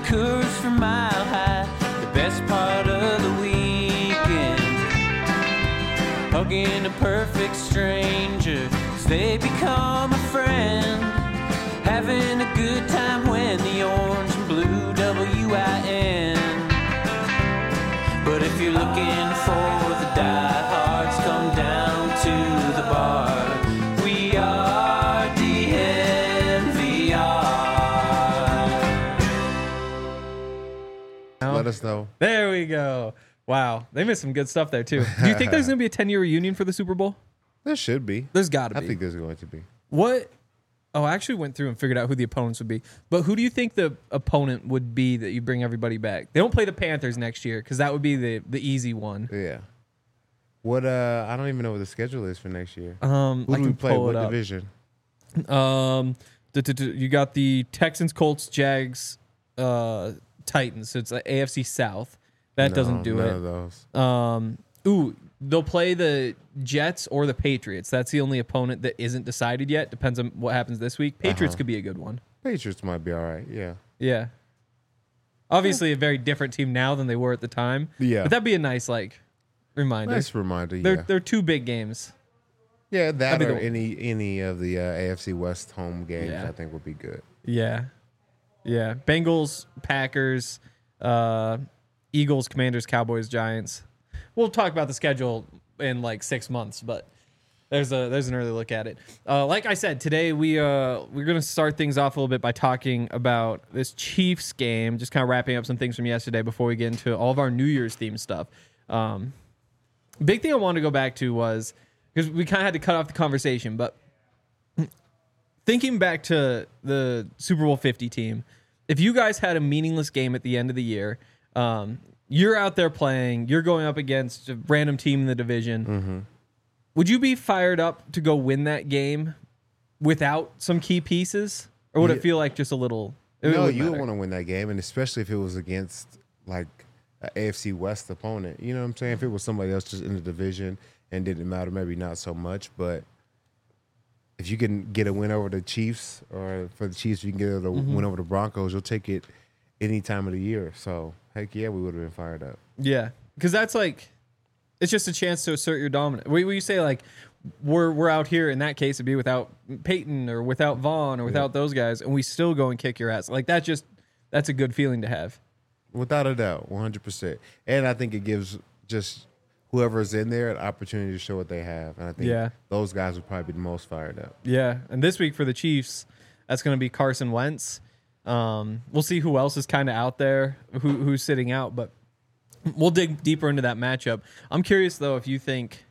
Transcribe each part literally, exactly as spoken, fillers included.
Coors from Mile High, the best part of the weekend. Hugging a perfect stranger as they become a friend. Having a good time when the orange and blue W I N. But if you're looking for the diehards, come down to the bar. We are D N V R. Let us know. There we go. Wow, they missed some good stuff there too. Do you think there's going to be a ten-year reunion for the Super Bowl? There should be. There's got to be. I think there's going to be. What? Oh, I actually went through and figured out who the opponents would be. But who do you think the opponent would be that you bring everybody back? They don't play the Panthers next year because that would be the, the easy one. Yeah. What? Uh, I don't even know what the schedule is for next year. Um, Who I do can we play? pull What it up. division? Um, d- d- d- you got the Texans, Colts, Jags, uh, Titans. So it's like A F C South. That No, doesn't do none it. of those. Um, ooh, they'll play the Jets or the Patriots. That's the only opponent that isn't decided yet. Depends on what happens this week. Patriots Uh-huh. could be a good one. Patriots might be all right. Yeah. Yeah. Obviously, a very different team now than they were at the time. Yeah. But that'd be a nice like reminder. Nice reminder. They're Yeah. they're two big games. Yeah, that be or the- any any of the uh, A F C West home games, Yeah. I think would be good. Yeah. Yeah. Bengals, Packers, uh, Eagles, Commanders, Cowboys, Giants. We'll talk about the schedule in like six months, but there's a there's an early look at it. Uh, like I said, today we uh we're gonna start things off a little bit by talking about this Chiefs game, just kind of wrapping up some things from yesterday before we get into all of our New Year's themed stuff. Um, big thing I wanted to go back to was because we kind of had to cut off the conversation, but thinking back to the Super Bowl fifty team, if you guys had a meaningless game at the end of the year, um, you're out there playing, you're going up against a random team in the division. Mm-hmm. Would you be fired up to go win that game without some key pieces? Or would Yeah. it feel like just a little... It No, wouldn't you would matter? want to win that game, and especially if it was against like an A F C West opponent. You know what I'm saying? If it was somebody else just in the division and didn't matter, maybe not so much. But if you can get a win over the Chiefs, or for the Chiefs, you can get a Mm-hmm. win over the Broncos, you'll take it any time of the year. So heck yeah, we would have been fired up. Yeah, because that's like... It's just a chance to assert your dominance. When you say like we're we're out here, in that case, it'd be without Peyton or without Vaughn or without those guys, and we still go and kick your ass. Like that just that's a good feeling to have. Without a doubt, one hundred percent. And I think it gives just whoever's in there an opportunity to show what they have. And I think Yeah. those guys would probably be the most fired up. Yeah, and this week for the Chiefs, that's going to be Carson Wentz. Um, we'll see who else is kind of out there, who who's sitting out, but we'll dig deeper into that matchup. I'm curious though if you think.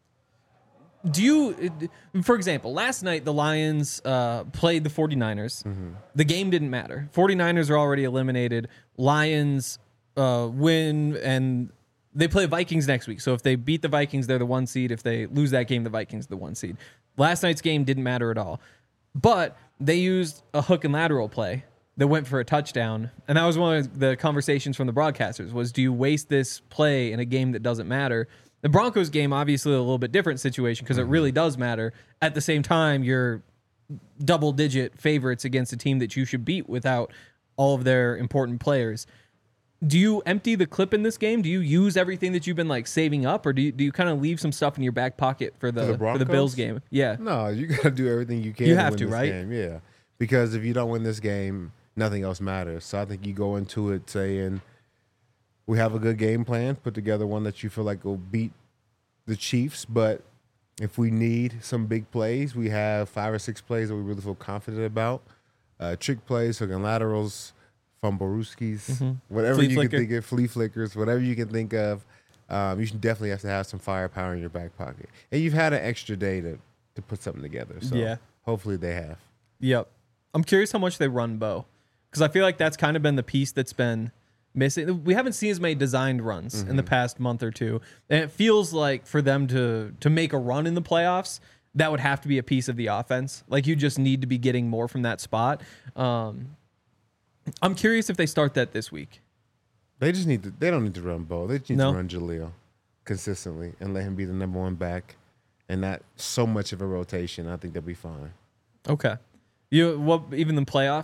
Do you, for example, last night the Lions uh, played the 49ers. Mm-hmm. The game didn't matter. 49ers are already eliminated. Lions uh, win, and they play Vikings next week. So if they beat the Vikings, they're the one seed. If they lose that game, the Vikings are the one seed. Last night's game didn't matter at all. But they used a hook and lateral play that went for a touchdown. And that was one of the conversations from the broadcasters was, do you waste this play in a game that doesn't matter? The Broncos game, obviously a little bit different situation because it really does matter. At the same time, you're double-digit favorites against a team that you should beat without all of their important players. Do you empty the clip in this game? Do you use everything that you've been like saving up, or do you do you kind of leave some stuff in your back pocket for the For the for the Broncos? Bills game? Yeah, No, you got to do everything you can You to have win to, this right? game. Yeah. Because if you don't win this game, nothing else matters. So I think you go into it saying, we have a good game plan, put together one that you feel like will beat the Chiefs, but if we need some big plays, we have five or six plays that we really feel confident about. Uh, trick plays, hook and laterals, fumblerooskies, whatever Flea you flicker. can think of, flea flickers, whatever you can think of. Um, you should definitely have to have some firepower in your back pocket. And you've had an extra day to, to put something together. So Yeah. hopefully they have. Yep. I'm curious how much they run Bo, because I feel like that's kind of been the piece that's been missing. We haven't seen as many designed runs in the past month or two, and it feels like for them to to make a run in the playoffs, that would have to be a piece of the offense. Like you just need to be getting more from that spot. Um, I'm curious if they start that this week. They just need to. They don't need to run Bo. They just need No? to run Jaleel consistently and let him be the number one back, and not so much of a rotation. I think they'll be fine. Okay. You what? Even the playoffs,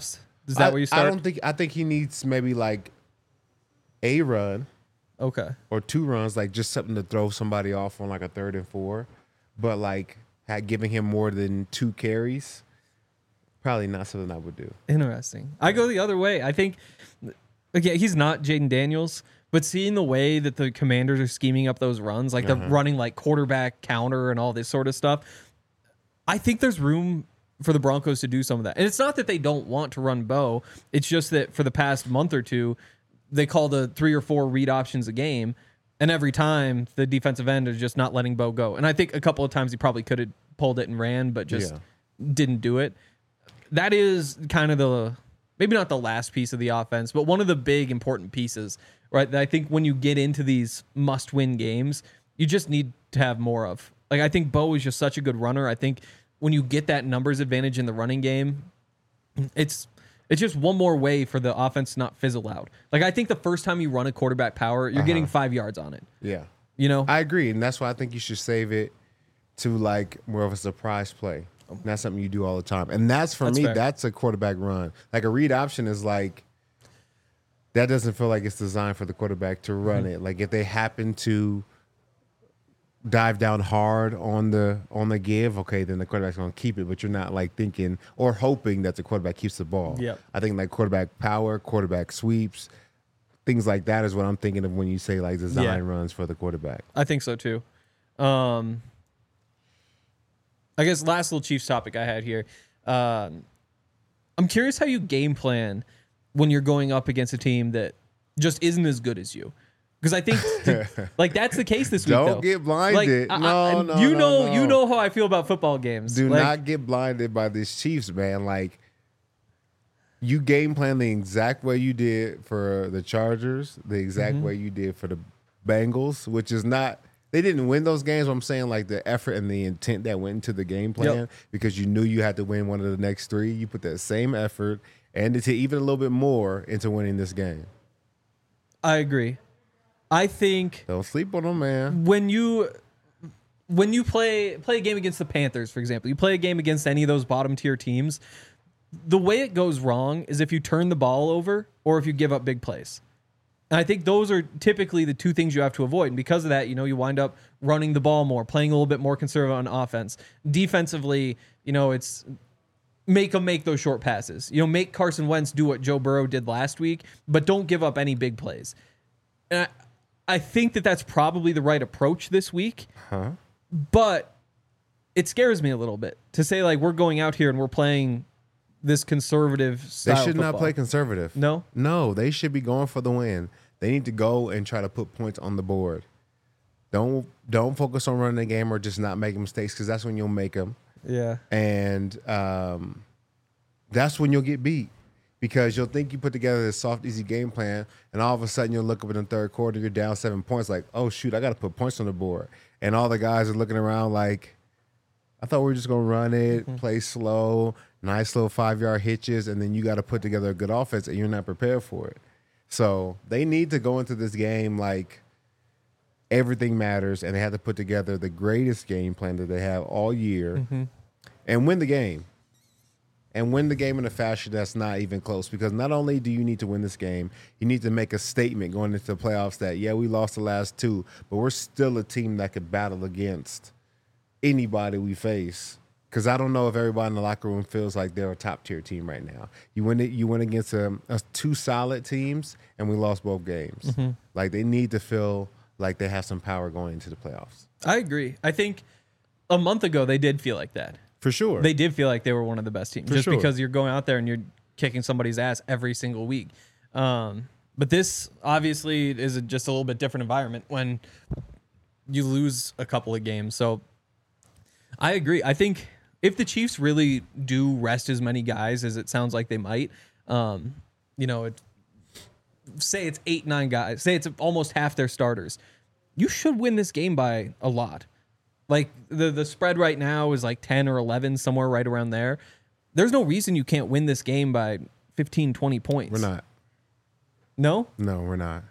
Is that I, where you start? I don't think. I think he needs maybe like a run Okay. or two runs, like just something to throw somebody off on like a third and four. But like had giving him more than two carries, probably not something I would do. Interesting. I go the other way. I think, again, he's not Jaden Daniels, but seeing the way that the Commanders are scheming up those runs, like the running like quarterback counter and all this sort of stuff, I think there's room for the Broncos to do some of that. And it's not that they don't want to run Bo. It's just that for the past month or two, they call the three or four read options a game. And every time the defensive end is just not letting Bo go. And I think a couple of times he probably could have pulled it and ran, but just Yeah. didn't do it. That is kind of the, maybe not the last piece of the offense, but one of the big important pieces, right? That I think when you get into these must win games, you just need to have more of. Like, I think Bo is just such a good runner. I think when you get that numbers advantage in the running game, it's it's just one more way for the offense to not fizzle out. Like, I think the first time you run a quarterback power, you're getting five yards on it. Yeah, You know? I agree, and that's why I think you should save it to like more of a surprise play. And that's something you do all the time, and that's for That's me. fair. That's a quarterback run. Like a read option is like that doesn't feel like it's designed for the quarterback to run Mm-hmm. it. Like if they happen to dive down hard on the on the give, okay, then the quarterback's gonna keep it. But you're not like thinking or hoping that the quarterback keeps the ball. Yep. I think like quarterback power, quarterback sweeps, things like that is what I'm thinking of when you say like design Yeah. runs for the quarterback. I think so too. Um, I guess last little Chiefs topic I had here. Um, I'm curious how you game plan when you're going up against a team that just isn't as good as you. Because I think, to- like, that's the case this week. Don't though. get blinded. Like, I- No, I- no, you no, know, no. you know how I feel about football games. Do Like, not get blinded by these Chiefs, man. Like you game plan the exact way you did for the Chargers, the exact Mm-hmm. way you did for the Bengals, which is not they didn't win those games. But I'm saying like the effort and the intent that went into the game plan Yep. because you knew you had to win one of the next three. You put that same effort and to even a little bit more into winning this game. I agree. I think Don't sleep on them, man. when you when you play play a game against the Panthers, for example, you play a game against any of those bottom tier teams, the way it goes wrong is if you turn the ball over or if you give up big plays. And I think those are typically the two things you have to avoid. And because of that, you know, you wind up running the ball more, playing a little bit more conservative on offense. Defensively, you know, it's make them make those short passes. You know, make Carson Wentz do what Joe Burrow did last week, but don't give up any big plays. And I, I think that that's probably the right approach this week. Huh? But it scares me a little bit to say, like, we're going out here and we're playing this conservative They style should not football. play conservative. No? No, they should be going for the win. They need to go and try to put points on the board. Don't don't focus on running the game or just not making mistakes because that's when you'll make them. Yeah. And um, that's when you'll get beat because you'll think you put together this soft, easy game plan, and all of a sudden you'll look up in the third quarter, you're down seven points, like, oh, shoot, I got to put points on the board. And all the guys are looking around like, I thought we were just going to run it, Mm-hmm. play slow, nice little five-yard hitches, and then you got to put together a good offense, and you're not prepared for it. So they need to go into this game like everything matters, and they have to put together the greatest game plan that they have all year Mm-hmm. and win the game. And win the game in a fashion that's not even close. Because not only do you need to win this game, you need to make a statement going into the playoffs that, yeah, we lost the last two, but we're still a team that could battle against anybody we face. Because I don't know if everybody in the locker room feels like they're a top-tier team right now. You win it. You went against um, uh, two solid teams, and we lost both games. Mm-hmm. Like, they need to feel like they have some power going into the playoffs. I agree. I think a month ago they did feel like that. For sure. They did feel like they were one of the best teams For just sure. because you're going out there and you're kicking somebody's ass every single week. Um, but this obviously is a, just a little bit different environment when you lose a couple of games. So I agree. I think if the Chiefs really do rest as many guys as it sounds like they might, um, you know, it, say it's eight, nine guys, say it's almost half their starters, you should win this game by a lot. Like the the spread right now is like ten or eleven, somewhere right around there. There's no reason you can't win this game by fifteen, twenty points. We're not. No? No, we're not.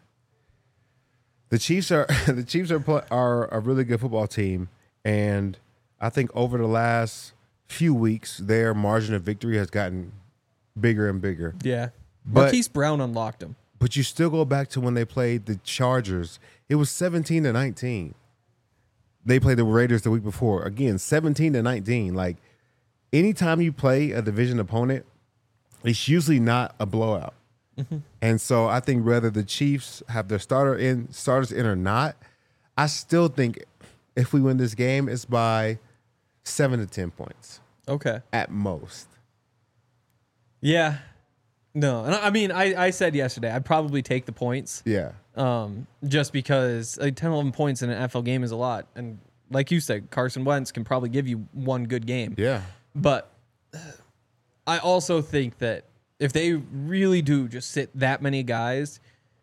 The Chiefs are the Chiefs are pl- are a really good football team, and I think over the last few weeks, their margin of victory has gotten bigger and bigger. Yeah. But- Marquise Brown unlocked him. But you still go back to when they played the Chargers. It was seventeen to nineteen. They played the Raiders the week before. Again, seventeen to nineteen. Like, anytime you play a division opponent, it's usually not a blowout. Mm-hmm. And so I think whether the Chiefs have their starter in, starters in or not, I still think if we win this game, it's by seven to ten points Okay. at most. Yeah. No. And I I mean, I, I said yesterday, I'd probably take the points. Yeah. Um, just because like ten, eleven points in an N F L game is a lot. And like you said, Carson Wentz can probably give you one good game. Yeah. But I also think that if they really do just sit that many guys,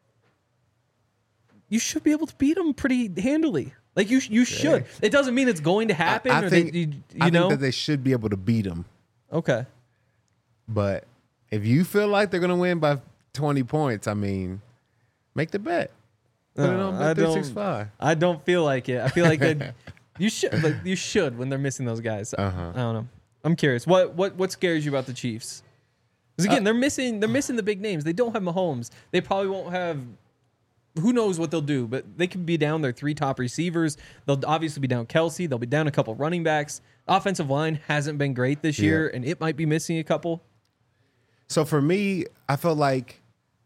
you should be able to beat them pretty handily. Like you, you should. It doesn't mean it's going to happen. I, I or think, they, you, you I know? think that they should be able to beat them. Okay. But if you feel like they're going to win by twenty points, I mean, make the bet. Put it No, on I Bet three don't- sixty-five. I don't feel like it. I feel like they, you should. Like, you should when they're missing those guys. Uh-huh. I don't know. I'm curious. What what what scares you about the Chiefs? Because again, Uh, they're missing they're missing the big names. They don't have Mahomes. They probably won't have. Who knows what they'll do? But they could be down their three top receivers. They'll obviously be down Kelsey. They'll be down a couple running backs. Offensive line hasn't been great this Yeah. year, and it might be missing a couple. So for me, I felt like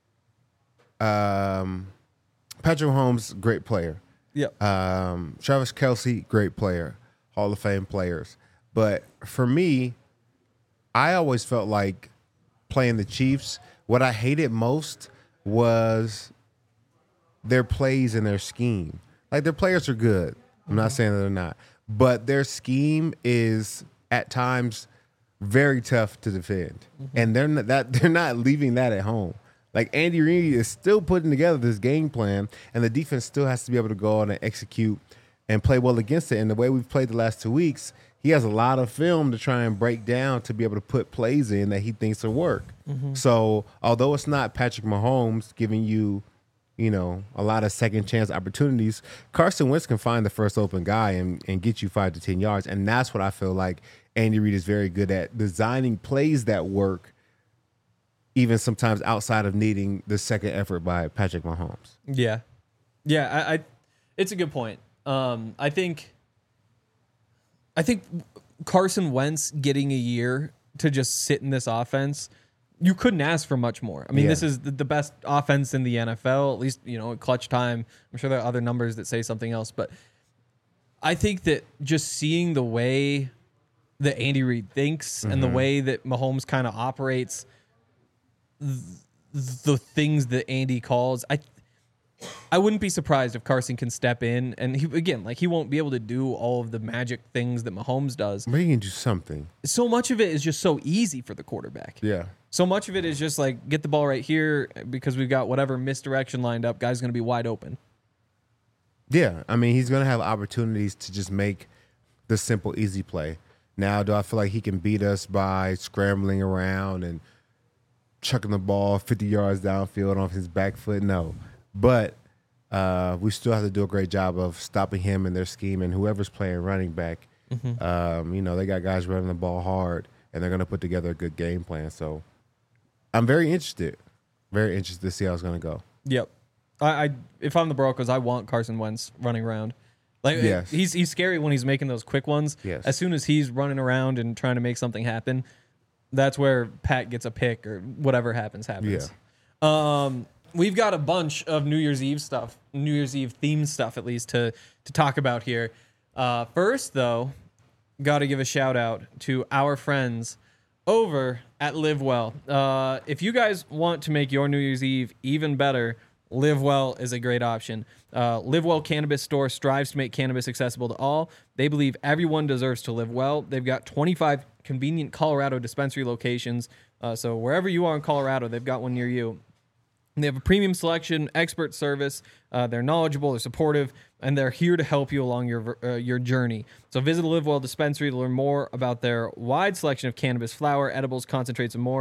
um, Patrick Mahomes, great player. Yep. Um, Travis Kelsey, great player, Hall of Fame players. But for me, I always felt like playing the Chiefs, what I hated most was their plays and their scheme. Like, their players are good. I'm not saying that they're not. But their scheme is at times very tough to defend. And they're not that they're not leaving that at home. Like, Andy Reid is still putting together this game plan, and the defense still has to be able to go out and execute and play well against it. And the way we've played the last two weeks, he has a lot of film to try and break down to be able to put plays in that he thinks will work. So although it's not Patrick Mahomes giving you, you know, a lot of second chance opportunities, Carson Wentz can find the first open guy and, and get you five to ten yards. And that's what I feel like Andy Reid is very good at, designing plays that work, even sometimes outside of needing the second effort by Patrick Mahomes. Yeah, yeah. I, I it's a good point. Um, I think, I think Carson Wentz getting a year to just sit in this offense, you couldn't ask for much more. I mean, Yeah. this is the, the best offense in the N F L, at least, you know, at clutch time. I'm sure there are other numbers that say something else, but I think that just seeing the way that Andy Reid thinks and the way that Mahomes kind of operates, th- the things that Andy calls, I I wouldn't be surprised if Carson can step in, and he, again, like, he won't be able to do all of the magic things that Mahomes does. But he can do something. So much of it is just so easy for the quarterback. Yeah. So much of it is just like, get the ball right here because we've got whatever misdirection lined up. Guy's going to be wide open. Yeah. I mean, he's going to have opportunities to just make the simple, easy play. Now, do I feel like he can beat us by scrambling around and chucking the ball fifty yards downfield off his back foot? No. But uh, we still have to do a great job of stopping him and their scheme, and whoever's playing running back. Mm-hmm. Um, you know, they got guys running the ball hard, and they're going to put together a good game plan. So I'm very interested, very interested to see how it's going to go. Yep. I, I if I'm the Broncos, I want Carson Wentz running around. Like, Yes. he's he's scary when he's making those quick ones. Yes. As soon as he's running around and trying to make something happen, that's where Pat gets a pick or whatever happens happens. Yeah. Um, we've got a bunch of New Year's Eve stuff, New Year's Eve themed stuff at least to to talk about here. Uh, first, though, got to give a shout out to our friends over at Live Well. Uh, if you guys want to make your New Year's Eve even better, Live Well is a great option. Uh, Live Well Cannabis Store strives to make cannabis accessible to all. They believe everyone deserves to live well. They've got twenty-five convenient Colorado dispensary locations. Uh, so wherever you are in Colorado, they've got one near you. And they have a premium selection, expert service. Uh, they're knowledgeable, they're supportive, and they're here to help you along your uh, your journey. So visit the Live Well dispensary to learn more about their wide selection of cannabis flower, edibles, concentrates, and more.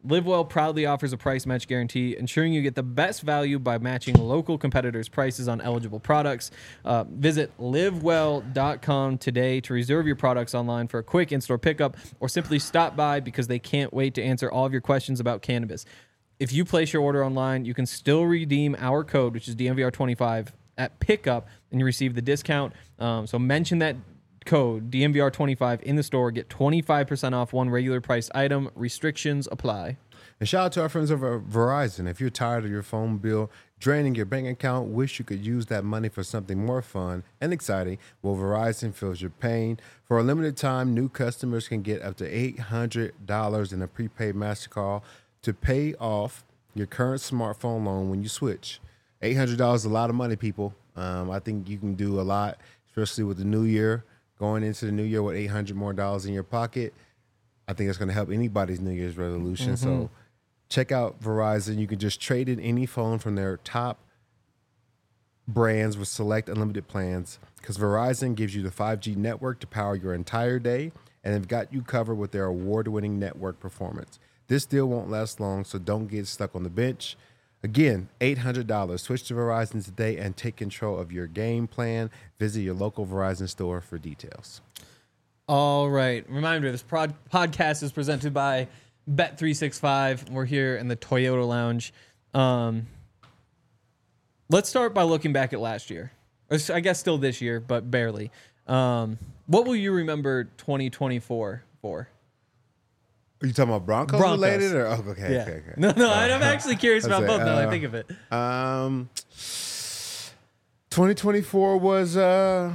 LiveWell proudly offers a price match guarantee, ensuring you get the best value by matching local competitors' prices on eligible products. Uh, visit live well dot com today to reserve your products online for a quick in-store pickup, or simply stop by because they can't wait to answer all of your questions about cannabis. If you place your order online, you can still redeem our code, which is D M V R twenty-five, at pickup, and you receive the discount. Um, so mention that code D M V R twenty-five in the store. Get twenty-five percent off one regular priced item. Restrictions apply. And shout out to our friends over at Verizon. If you're tired of your phone bill draining your bank account, wish you could use that money for something more fun and exciting, well, Verizon feels your pain. For a limited time, new customers can get up to eight hundred dollars in a prepaid MasterCard to pay off your current smartphone loan when you switch. eight hundred dollars is a lot of money, people. Um, I think you can do a lot, especially with the new year. Going into the new year with eight hundred more dollars in your pocket, I think it's going to help anybody's New Year's resolution. Mm-hmm. So check out Verizon. You can just trade in any phone from their top brands with select unlimited plans, because Verizon gives you the five G network to power your entire day, and they've got you covered with their award-winning network performance. This deal won't last long, so don't get stuck on the bench. Again, eight hundred dollars. Switch to Verizon today and take control of your game plan. Visit your local Verizon store for details. All right. Reminder, this prod- podcast is presented by Bet three sixty-five. We're here in the Toyota Lounge. Um, let's start by looking back at last year. Or I guess still this year, but barely. Um, what will you remember twenty twenty-four for? Are you talking about Broncos, Broncos. related? Or oh, okay, Yeah. okay, okay. No, no, Uh, I'm actually curious about say, both now that I uh, think of it. Um, twenty twenty-four was uh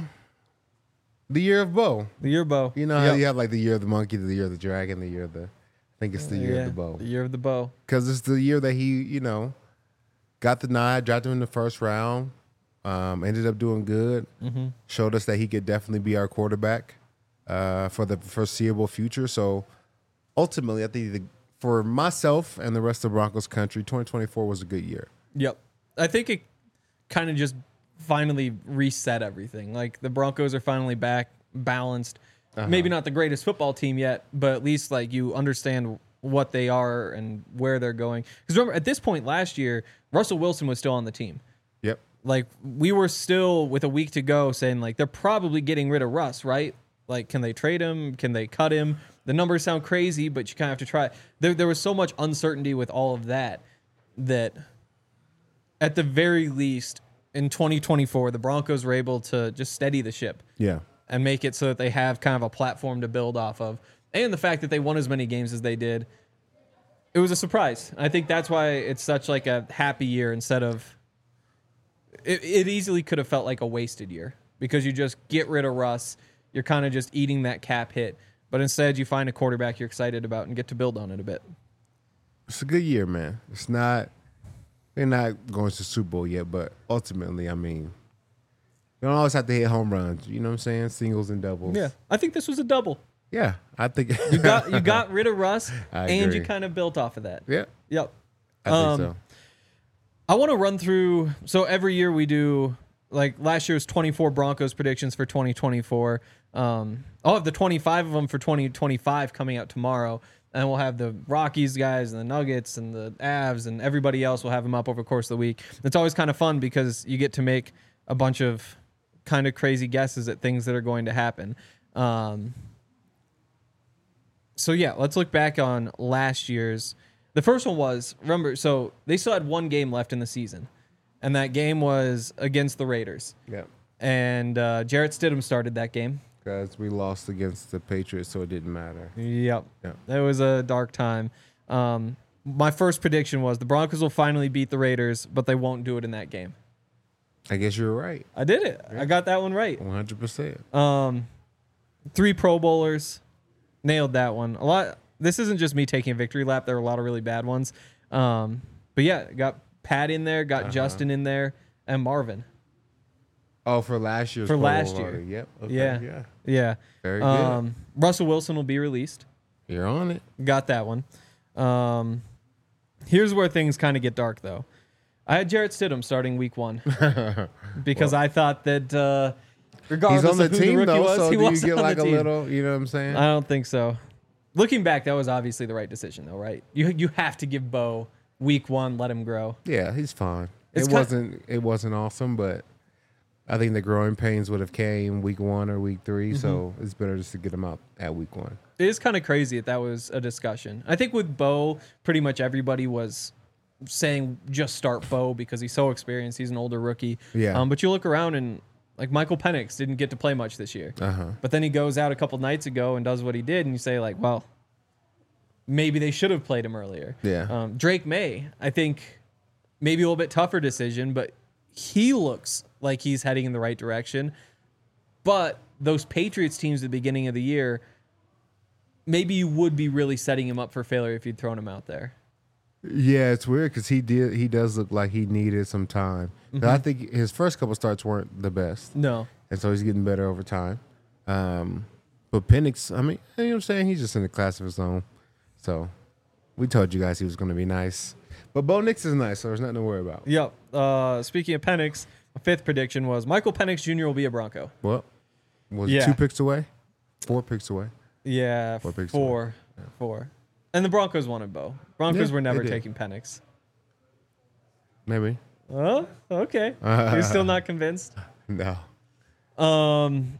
the year of Bo. The year bow. You know how Yep. you have like the year of the monkey, the year of the dragon, the year of the. I think it's the year Yeah, of the bow. The year of the bow. Because it's the year that he, you know, got the nod, drafted him in the first round, um, ended up doing good, Mm-hmm. showed us that he could definitely be our quarterback uh, for the foreseeable future. So ultimately, I think the, for myself and the rest of Broncos country, twenty twenty-four was a good year. Yep. I think it kind of just finally reset everything. Like the Broncos are finally back, balanced. Uh-huh. Maybe not the greatest football team yet, but at least like you understand what they are and where they're going. Because remember, at this point last year, Russell Wilson was still on the team. Yep. Like we were still with a week to go saying like they're probably getting rid of Russ, right? Like can they trade him? Can they cut him? The numbers sound crazy, but you kind of have to try. There, there was so much uncertainty with all of that that at the very least in twenty twenty-four, the Broncos were able to just steady the ship. Yeah. And make it so that they have kind of a platform to build off of. And the fact that they won as many games as they did, it was a surprise. I think that's why it's such like a happy year instead of... It, it easily could have felt like a wasted year because you just get rid of Russ. You're kind of just eating that cap hit. But instead, you find a quarterback you're excited about and get to build on it a bit. It's a good year, man. It's not... They're not going to the Super Bowl yet, but ultimately, I mean... You don't always have to hit home runs. You know what I'm saying? Singles and doubles. Yeah, I think this was a double. Yeah, I think... You got you got rid of Russ, I and agree. you kind of built off of that. Yeah, Yep. I Um, think so. I want to run through. So every year we do, like last year was twenty-four Broncos predictions for twenty twenty-four. Um, I'll have the twenty-five of them for twenty twenty-five coming out tomorrow. And we'll have the Rockies guys and the Nuggets and the Avs and everybody else will have them up over the course of the week. It's always kind of fun because you get to make a bunch of kind of crazy guesses at things that are going to happen. Um, so yeah, let's look back on last year's. The first one was, remember, so they still had one game left in the season, and that game was against the Raiders. Yeah, And uh, Jarrett Stidham started that game. because we lost against the Patriots, so it didn't matter. Yep. Yeah. That was a dark time. Um, my first prediction was the Broncos will finally beat the Raiders, but they won't do it in that game. I guess you're right. I did it. I got that one right. one hundred percent. Um, three Pro Bowlers. Nailed that one. A lot. This isn't just me taking a victory lap. There were a lot of really bad ones. Um, but yeah, got Pat in there, got Uh-huh. Justin in there, and Marvin. Oh, for last year's For Pro last Bowl year. order. Yep. Okay, Yeah. Yeah. Yeah. Very good. Um, Russell Wilson will be released. You're on it. Got that one. Um, here's where things kind of get dark, though. I had Jarrett Stidham starting week one because I thought that uh, regardless He's on the of who the team rookie though, was, so he do you was get on like the a team. little? You know what I'm saying? I don't think so. Looking back, that was obviously the right decision, though, right? You you have to give Bo week one, let him grow. Yeah, he's fine. It's it kind- wasn't it wasn't awesome, but I think the growing pains would have came week one or week three, Mm-hmm. so it's better just to get him out at week one. It is kind of crazy that that was a discussion. I think with Bo, pretty much everybody was saying just start Bo because he's so experienced. He's an older rookie. Yeah. Um, but you look around and like Michael Penix didn't get to play much this year. Uh-huh. But then he goes out a couple nights ago and does what he did, and you say like, well, maybe they should have played him earlier. Yeah. Um, Drake May, I think maybe a little bit tougher decision, but he looks like he's heading in the right direction. But those Patriots teams at the beginning of the year, maybe you would be really setting him up for failure if you'd thrown him out there. Yeah, it's weird because he did he does look like he needed some time. Mm-hmm. But I think his first couple starts weren't the best, No. and so he's getting better over time. Um, but Penix, I mean, you know what I'm saying? He's just in a class of his own. So we told you guys he was going to be nice. But Bo Nix is nice, so there's nothing to worry about. Yep. Uh, speaking of Penix, my fifth prediction was Michael Penix Junior will be a Bronco. Well, was Yeah. it two picks away? Four picks away? Yeah, Four picks four. Four. And the Broncos wanted Bo. Broncos Yeah, were never they did. taking Penix. Maybe. Oh, okay. You're still not convinced? No. Um,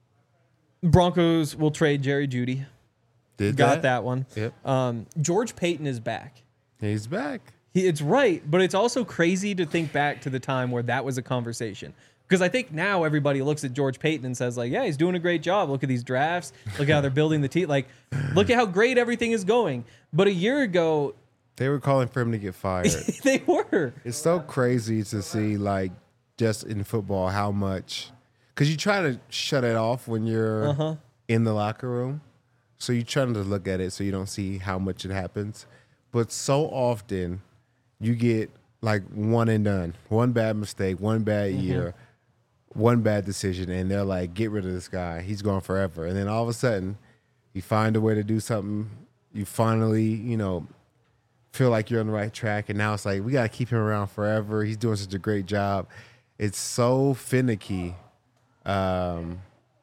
Broncos will trade Jerry Jeudy. Did Got that one. Yep. Um, George Payton is back. He's back. He, it's right, but it's also crazy to think back to the time where that was a conversation. Because I think now everybody looks at George Payton and says, like, yeah, he's doing a great job. Look at these drafts. Look at how they're building the team. Like, look at how great everything is going. But a year ago, They were calling for him to get fired. they were. It's so crazy to see, like, just in football, how much. Because you try to shut it off when you're Uh-huh. in the locker room. So you're trying to look at it so you don't see how much it happens. But so often, you get, like, one and done. One bad mistake, one bad Mm-hmm. year, one bad decision. And they're like, get rid of this guy. He's gone forever. And then all of a sudden, you find a way to do something. You finally, you know, feel like you're on the right track, and now it's like we got to keep him around forever. He's doing such a great job. It's so finicky um,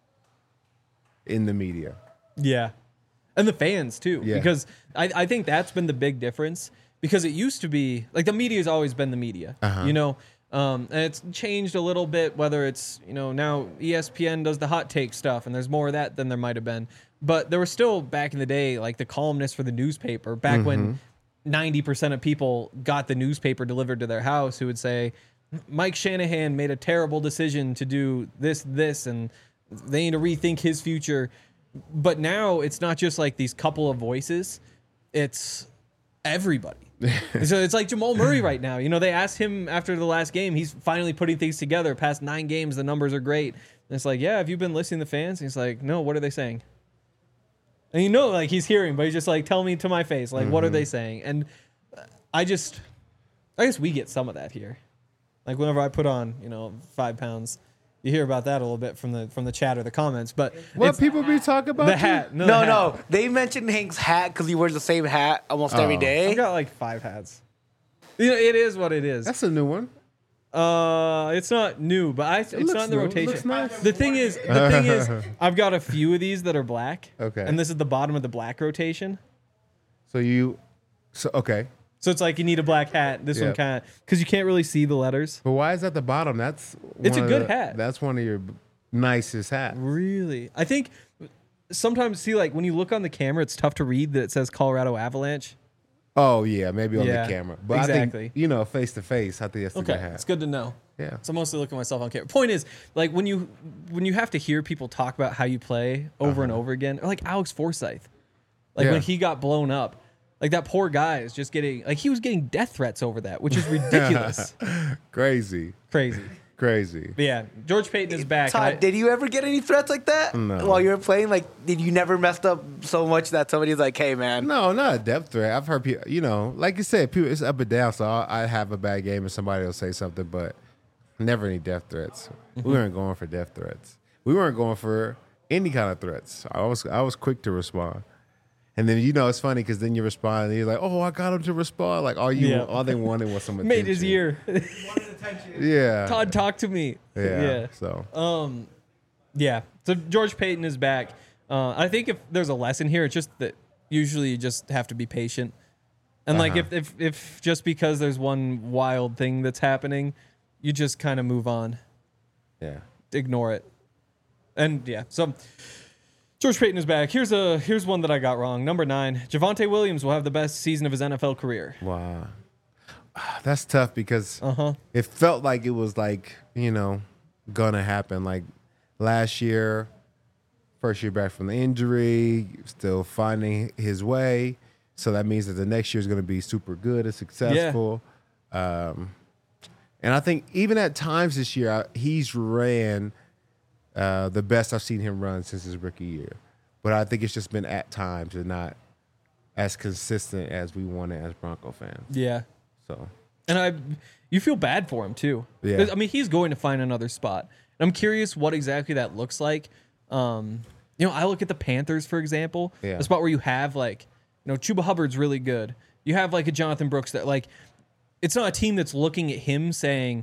in the media. Yeah. And the fans, too. Yeah. Because I, I think that's been the big difference. Because it used to be, like, the media's always been the media. Uh-huh. You know? Um, and it's changed a little bit, whether it's, you know, now E S P N does the hot take stuff, and there's more of that than there might have been. But there was still, back in the day, like, the columnists for the newspaper, back Mm-hmm. when ninety percent of people got the newspaper delivered to their house, who would say, Mike Shanahan made a terrible decision to do this, this, and they need to rethink his future. But now it's not just like these couple of voices, it's everybody. So it's like Jamal Murray right now. You know, they asked him after the last game, he's finally putting things together. Past nine games, the numbers are great. And it's like, yeah, have you been listening to fans? And he's like, no, what are they saying? And you know, like, he's hearing, but he's just like, tell me to my face, like, what are they saying? And I just, I guess we get some of that here. Like, whenever I put on, you know, five pounds, you hear about that a little bit from the from the chat or the comments. But What it's people be talking about? the you? hat. No, No, the hat. no. They mentioned Hank's hat because he wears the same hat almost every Oh. day. I've got like five hats. You know, it is what it is. That's a new one. Uh, it's not new, but I, it's looks not in the new. It rotation. looks nice. The thing is, the thing is, I've got a few of these that are black. Okay. And this is the bottom of the black rotation. So you, so okay. So it's like you need a black hat. This one Yep. kind of, because you can't really see the letters. But why is that the bottom? That's It's one a of good the- hat. That's one of your nicest hats. Really? I think sometimes, see, like when you look on the camera, it's tough to read that it says Colorado Avalanche. Oh yeah, maybe on Yeah, the camera. But I exactly. think you know, face to face, I think that's a Okay, good hat. it's good to know. Yeah. So I mostly look at myself on camera. Point is, like when you when you have to hear people talk about how you play over and over again, or like Alex Forsyth, like Yeah. when he got blown up, like that poor guy is just getting like he was getting death threats over that, which is ridiculous, Crazy, crazy. crazy. But yeah, George Payton is back. Todd, and I- did you ever get any threats like that No. while you were playing? Like, did you never messed up so much that somebody's like, "Hey, man, No, not a depth threat. I've heard people, you know, like you said, people, it's up and down. So I, I have a bad game and somebody will say something, but never any death threats. Mm-hmm. We weren't going for death threats. We weren't going for any kind of threats. I was I was quick to respond. And then, you know, it's funny because then you respond and you're like, oh, I got him to respond. Like, all you, Yeah. all they wanted was some attention. made his year. Yeah. Todd, talk to me. Yeah. yeah. So, Um, yeah. So George Payton is back. Uh, I think if there's a lesson here, it's just that Usually you just have to be patient. And like Uh-huh. if, if if just because there's one wild thing that's happening, you just kind of move on. Yeah. Ignore it. And yeah, so George Payton is back. Here's a here's one that I got wrong. Number nine, Javonte Williams will have the best season of his N F L career. Wow. That's tough because Uh-huh. it felt like it was like, you know, gonna happen. Like last year, first year back from the injury, still finding his way. So that means that the next year is going to be super good and successful. Um, and I think even at times this year, I, he's ran uh, the best I've seen him run since his rookie year. But I think it's just been at times and not as consistent as we wanted as Bronco fans. Yeah. So And I, you feel bad for him too. Yeah. 'Cause, I mean, he's going to find another spot. And I'm curious what exactly that looks like. Um, you know, I look at the Panthers, for example, Yeah. a spot where you have like, you know, Chuba Hubbard's really good. You have like a Jonathan Brooks that like, it's not a team that's looking at him saying,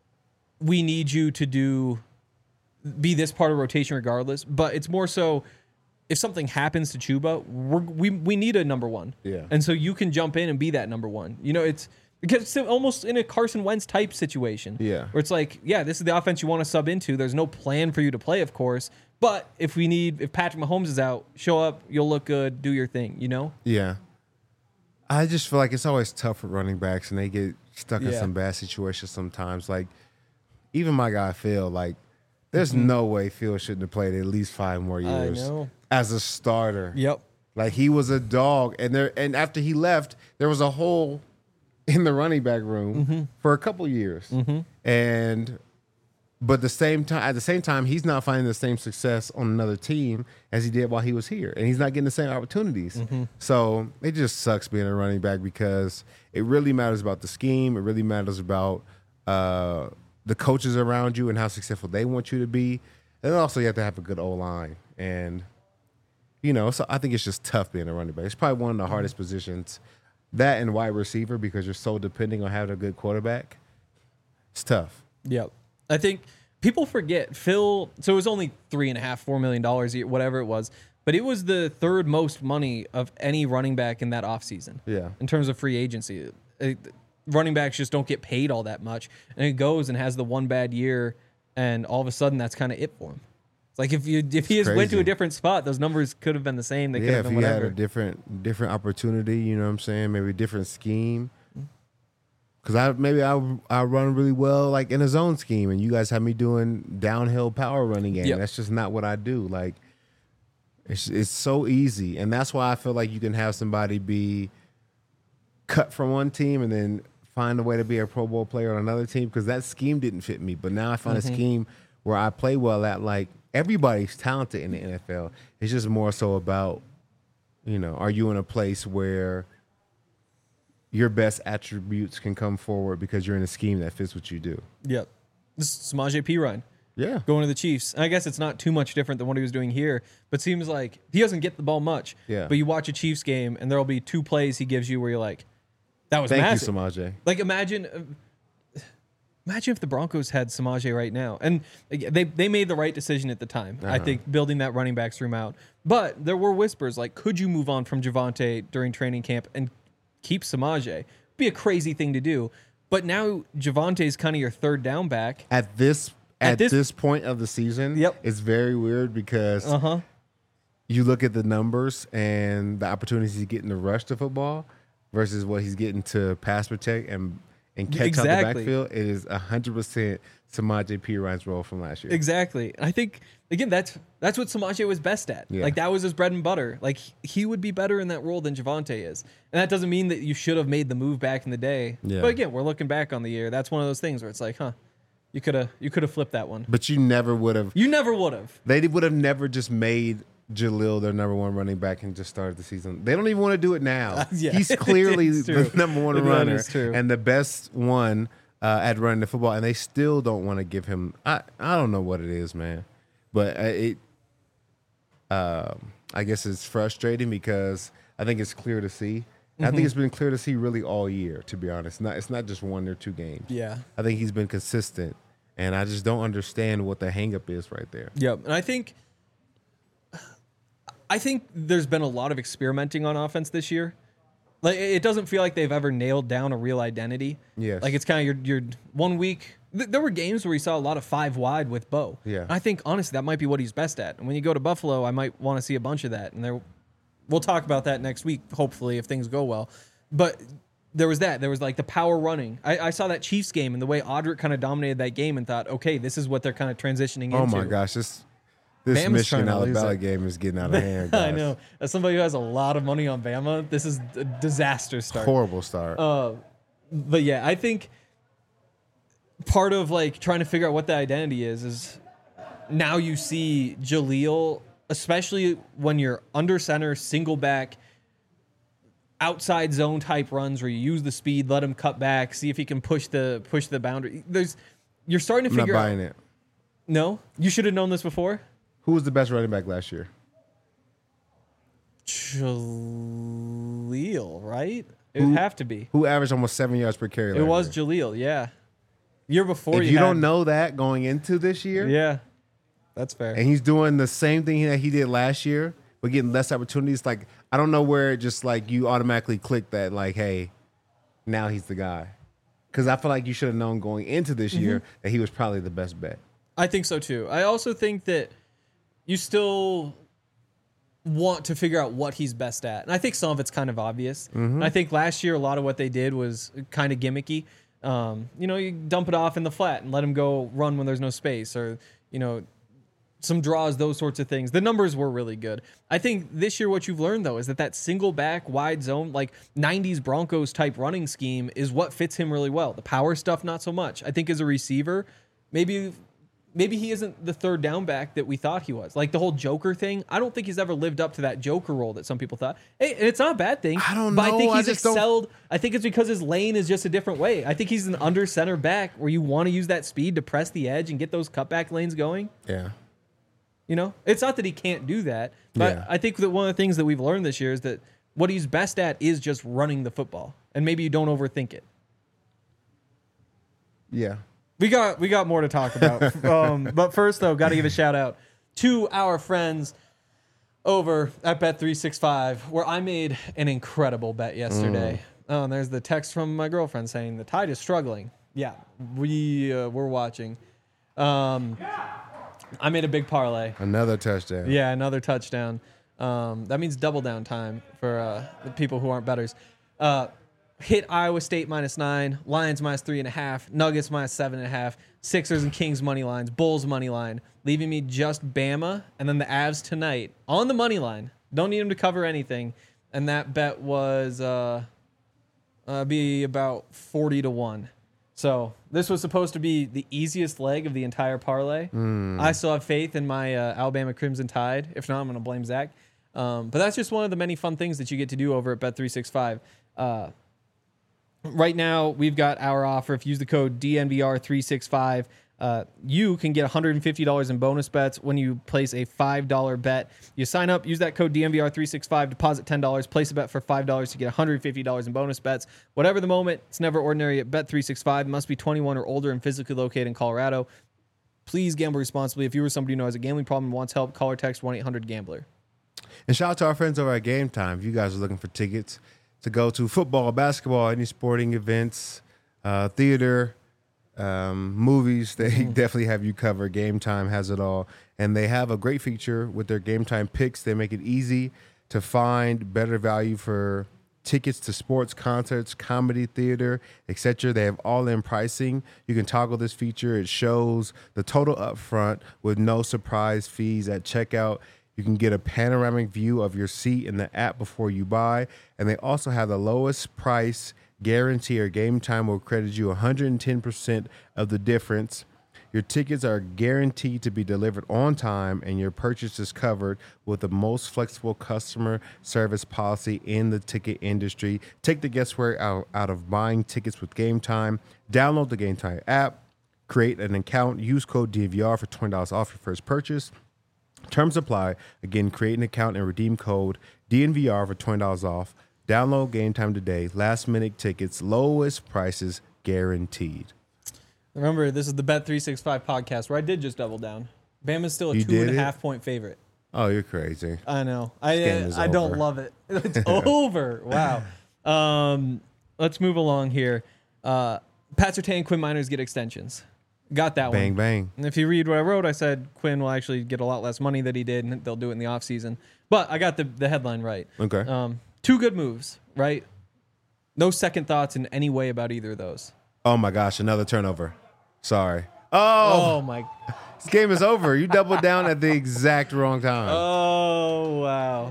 we need you to do, be this part of rotation regardless. But it's more so, if something happens to Chuba, we're, we we need a number one. Yeah. And so you can jump in and be that number one. You know, it's because it's almost in a Carson Wentz type situation. Yeah. Where it's like, yeah, this is the offense you want to sub into. There's no plan for you to play, of course. But if we need, if Patrick Mahomes is out, show up, you'll look good, do your thing, you know? yeah, I just feel like it's always tough for running backs, and they get stuck in Yeah. some bad situations sometimes. Like even my guy Phil, like there's Mm-hmm. no way Phil shouldn't have played at least five more years know. as a starter. Yep. Like he was a dog, and there and after he left, there was a hole in the running back room Mm-hmm. for a couple years, and but the same time at the same time he's not finding the same success on another team as he did while he was here, and he's not getting the same opportunities. Mm-hmm. So it just sucks being a running back because it really matters about the scheme. It really matters about uh, the coaches around you and how successful they want you to be, and also you have to have a good O line and. You know, so I think it's just tough being a running back. It's probably one of the hardest positions, that and wide receiver, because you're so depending on having a good quarterback. It's tough. Yep. I think people forget Phil. So it was only three and a half, four million dollars, a year, whatever it was, but it was the third most money of any running back in that offseason. Yeah. In terms of free agency, It- running backs just don't get paid all that much, and he goes and has the one bad year, and all of a sudden that's kind of it for him. It's like if you if he has went to crazy. a different spot, those numbers could have been the same. They could Yeah, have if been you had whatever. a different different opportunity, you know what I'm saying? Maybe a different scheme. Because I maybe I I run really well like in a zone scheme, and you guys have me doing downhill power running game. Yep. That's just not what I do. Like it's it's so easy, and that's why I feel like you can have somebody be cut from one team and then find a way to be a Pro Bowl player on another team because that scheme didn't fit me. But now I found Mm-hmm. a scheme where I play well at. Like everybody's talented in the N F L. It's just more so about, you know, are you in a place where your best attributes can come forward because you're in a scheme that fits what you do. Yep. This is Samaje Perine Yeah. going to the Chiefs. And I guess it's not too much different than what he was doing here, but seems like he doesn't get the ball much. Yeah. But you watch a Chiefs game, and there'll be two plays he gives you where you're like, that was Thank massive. you, Samaje. Like imagine, uh, imagine if the Broncos had Samaje right now, and they they made the right decision at the time. I Uh-huh. think building that running backs room out. But there were whispers like, could you move on from Javonte during training camp and keep Samaje? Be a crazy thing to do. But now Javonte's kind of your third down back. At this At at, this- this, point of the season, Yep. it's very weird because Uh huh. you look at the numbers and the opportunities he's getting to rush the football versus what he's getting to pass protect and and catch out Exactly. the backfield. It is one hundred percent Samaje Perine's role from last year. Exactly. And I think again that's that's what Samaje was best at. Yeah. Like that was his bread and butter. Like he would be better in that role than Javonte is. And that doesn't mean that you should have made the move back in the day. Yeah. But again, we're looking back on the year. That's one of those things where it's like, huh, you could have you could have flipped that one. But you never would have. You never would have. They would have never just made Jalil their number one running back and just started the season. They don't even want to do it now. yeah. He's clearly It's true. the number one That runner is true. and the best one uh, at running the football, and they still don't want to give him. I I don't know what it is, man, but uh, it. Um, I guess it's frustrating because I think it's clear to see. I Mm-hmm. think it's been clear to see really all year. To be honest, not it's not just one or two games. Yeah. I think he's been consistent, and I just don't understand what the hangup is right there. Yep. And I think I think there's been a lot of experimenting on offense this year. Like it doesn't feel like they've ever nailed down a real identity. Yes. Like it's kind of your your one week. Th- there were games where we saw a lot of five wide with Bo. Yeah. And I think honestly that might be what he's best at. And when you go to Buffalo, I might want to see a bunch of that. And there, we'll talk about that next week, hopefully if things go well. But there was that. There was like the power running. I, I saw that Chiefs game and the way Audric kind of dominated that game and thought, okay, this is what they're kind of transitioning Oh into. my gosh, this this Bama's Michigan trying to lose Alabama it. game is getting out of hand. Guys. I know. As somebody who has a lot of money on Bama, this is a disaster start. Horrible start. Uh, but yeah, I think part of like trying to figure out what the identity is is now you see Jaleel, especially when you're under center, single back, outside zone type runs where you use the speed, let him cut back, see if he can push the push the boundary. There's you're starting to I'm not figure out. buying it. No, you should have known this before. Who was the best running back last year? Jaleel, right? It Who- would have to be. Who averaged almost seven yards per carry? It last was year? Jaleel, yeah. Year before If you you had, don't know that going into this year, yeah, that's fair. and he's doing the same thing that he did last year, but getting less opportunities. Like I don't know where it just like you automatically click that like, hey, now he's the guy. Because I feel like you should have known going into this Mm-hmm. year that he was probably the best bet. I think so too. I also think that you still want to figure out what he's best at. And I think some of it's kind of obvious. And I think last year, a lot of what they did was kind of gimmicky. Um, you know, you dump it off in the flat and let him go run when there's no space, or, you know, some draws, those sorts of things. The numbers were really good. I think this year what you've learned, though, is that that single back wide zone, like nineties Broncos type running scheme is what fits him really well. The power stuff, not so much. I think as a receiver, maybe maybe he isn't the third down back that we thought he was. Like the whole Joker thing, I don't think he's ever lived up to that Joker role that some people thought. Hey, and it's not a bad thing. I don't But I know. think I he's just don't- excelled. I think it's because his lane is just a different way. I think he's an under center back where you want to use that speed to press the edge and get those cutback lanes going. Yeah. You know, it's not that he can't do that, but Yeah. I think that one of the things that we've learned this year is that what he's best at is just running the football, and maybe you don't overthink it. Yeah. We got we got more to talk about, um, but first though, got to give a shout out to our friends over at Bet three sixty-five, where I made an incredible bet yesterday. Oh, and there's the text from my girlfriend saying the Tide is struggling. Yeah, we uh, we're watching. Um, I made a big parlay. Another touchdown. Yeah, another touchdown. Um, that means double down time for uh, the people who aren't bettors. Uh, hit Iowa State minus nine, Lions minus three and a half, Nuggets minus seven and a half, Sixers and Kings money lines, Bulls money line, leaving me just Bama and then the Avs tonight on the money line. Don't need them to cover anything, and that bet was uh, uh, be about forty to one. So this was supposed to be the easiest leg of the entire parlay. I still have faith in my uh, Alabama Crimson Tide. If not, I'm going to blame Zach. Um, but that's just one of the many fun things that you get to do over at Bet three sixty-five. Uh, right now, we've got our offer. If you use the code D N V R three sixty-five, uh, you can get one hundred fifty dollars in bonus bets when you place a five dollar bet. You sign up, use that code D N V R three sixty-five, deposit ten dollars, place a bet for five dollars to get one hundred fifty dollars in bonus bets. Whatever the moment, it's never ordinary at Bet three sixty-five. Must be twenty-one or older and physically located in Colorado. Please gamble responsibly. If you or somebody who knows a gambling problem and wants help, call or text one eight hundred gambler. And shout out to our friends over at Game Time. If you guys are looking for tickets to go to football, basketball, any sporting events, uh, theater, um, movies, they definitely have you covered. Game Time has it all. And they have a great feature with their Game Time picks. They make it easy to find better value for tickets to sports, concerts, comedy, theater, et cetera. They have all-in pricing. You can toggle this feature. It shows the total upfront with no surprise fees at checkout. You can get a panoramic view of your seat in the app before you buy. And they also have the lowest price guarantee, or Game Time will credit you one hundred ten percent of the difference. Your tickets are guaranteed to be delivered on time, and your purchase is covered with the most flexible customer service policy in the ticket industry. Take the guesswork out, out of buying tickets with Game Time. Download the Game Time app, create an account, use code D V R for twenty dollars off your first purchase. Terms apply. Again, create an account and redeem code D N V R for twenty dollars off. Download Game Time today. Last minute tickets, lowest prices guaranteed. Remember, this is the Bet three sixty-five podcast where I did just double down. Bama's still a You two and did a it? half point favorite. Oh, you're crazy. I know. I game uh, is I don't over. love it. It's over. Wow. Um, let's move along here. Uh, Pat Surtain and Quinn Miners get extensions. Got that Bang, one. bang. And if you read what I wrote, I said Quinn will actually get a lot less money than he did, and they'll do it in the offseason. But I got the, the headline right. Okay. Um, two good moves, right? No second thoughts in any way about either of those. Oh, my gosh. Another turnover. Sorry. Oh, Oh, my. this game is over. You doubled down at the exact wrong time. Oh, wow.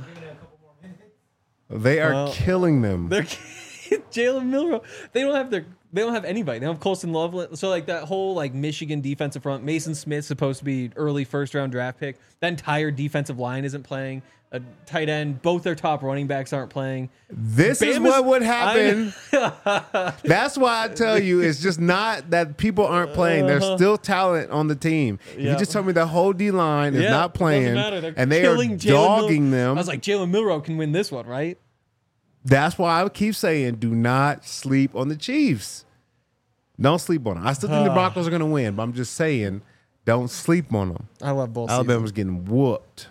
they are well, killing them. They're Jalen Milroe. They don't have their. They don't have anybody. They don't have Colson Loveland. So like that whole like Michigan defensive front. Mason Smith's supposed to be early first round draft pick. That entire defensive line isn't playing. A tight end. Both their top running backs aren't playing. This is Bama's- what would happen. That's why I tell you, it's just not that people aren't playing. There's still talent on the team. If Yeah. You just told me the whole D line is Yeah, not playing, doesn't matter. They're and they are killing Jalen dogging Mil- them. I was like, Jalen Milroe can win this one, right? That's why I keep saying, do not sleep on the Chiefs. Don't sleep on them. I still think the Broncos are going to win, but I'm just saying, don't sleep on them. I love both. Alabama's getting whooped.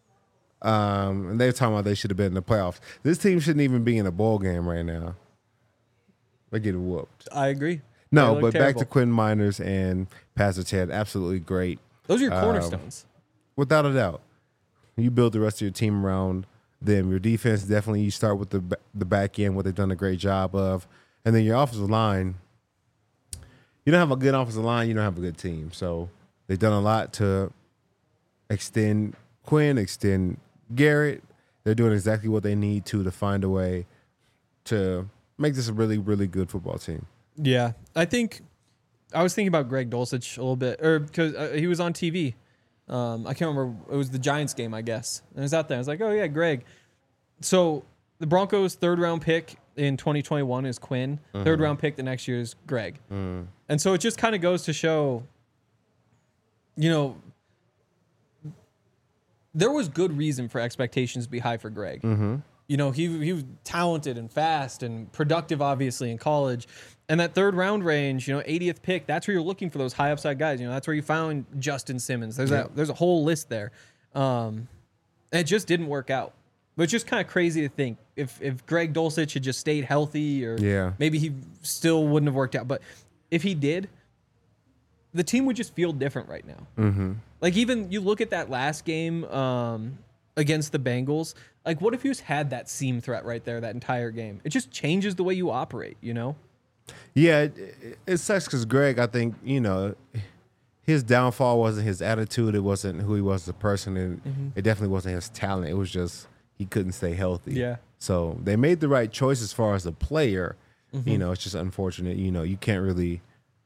Um, and they're talking about they should have been in the playoffs. This team shouldn't even be in a bowl game right now. They're getting whooped. I agree. No, They look but back terrible. to Quinn Miners and Pastor Ted. Absolutely great. Those are your Um, cornerstones. Without a doubt. You build the rest of your team around them. Your defense, definitely, you start with the ba- the back end, what they've done a great job of. And then your offensive line, you don't have a good offensive line, you don't have a good team. So they've done a lot to extend Quinn, extend Garrett. They're doing exactly what they need to to find a way to make this a really, really good football team. Yeah, I think I was thinking about Greg Dulcich a little bit, or because uh, he was on T V. Um, I can't remember. It was the Giants game, I guess. And I was out there. I was like, oh yeah, Greg. So the Broncos' third round pick in twenty twenty-one is Quinn. Mm-hmm. Third round pick the next year is Greg. Mm. And so it just kind of goes to show, you know, there was good reason for expectations to be high for Greg. Mm-hmm. You know, he he was talented and fast and productive, obviously, in college. And that third round range, you know, eightieth pick, that's where you're looking for those high upside guys. You know, that's where you found Justin Simmons. There's Yeah. that there's a whole list there. Um, and it just didn't work out. But it's just kind of crazy to think if if Greg Dulcich had just stayed healthy, or Yeah. maybe he still wouldn't have worked out. But if he did, the team would just feel different right now. Mm-hmm. Like, even you look at that last game um, against the Bengals. Like, what if you just had that seam threat right there that entire game? It just changes the way you operate, you know? Yeah, it, it, it sucks because Greg, I think, you know, his downfall wasn't his attitude. It wasn't who he was as a person. And Mm-hmm. it definitely wasn't his talent. It was just he couldn't stay healthy. Yeah. So they made the right choice as far as the player. Mm-hmm. You know, it's just unfortunate. You know, you can't really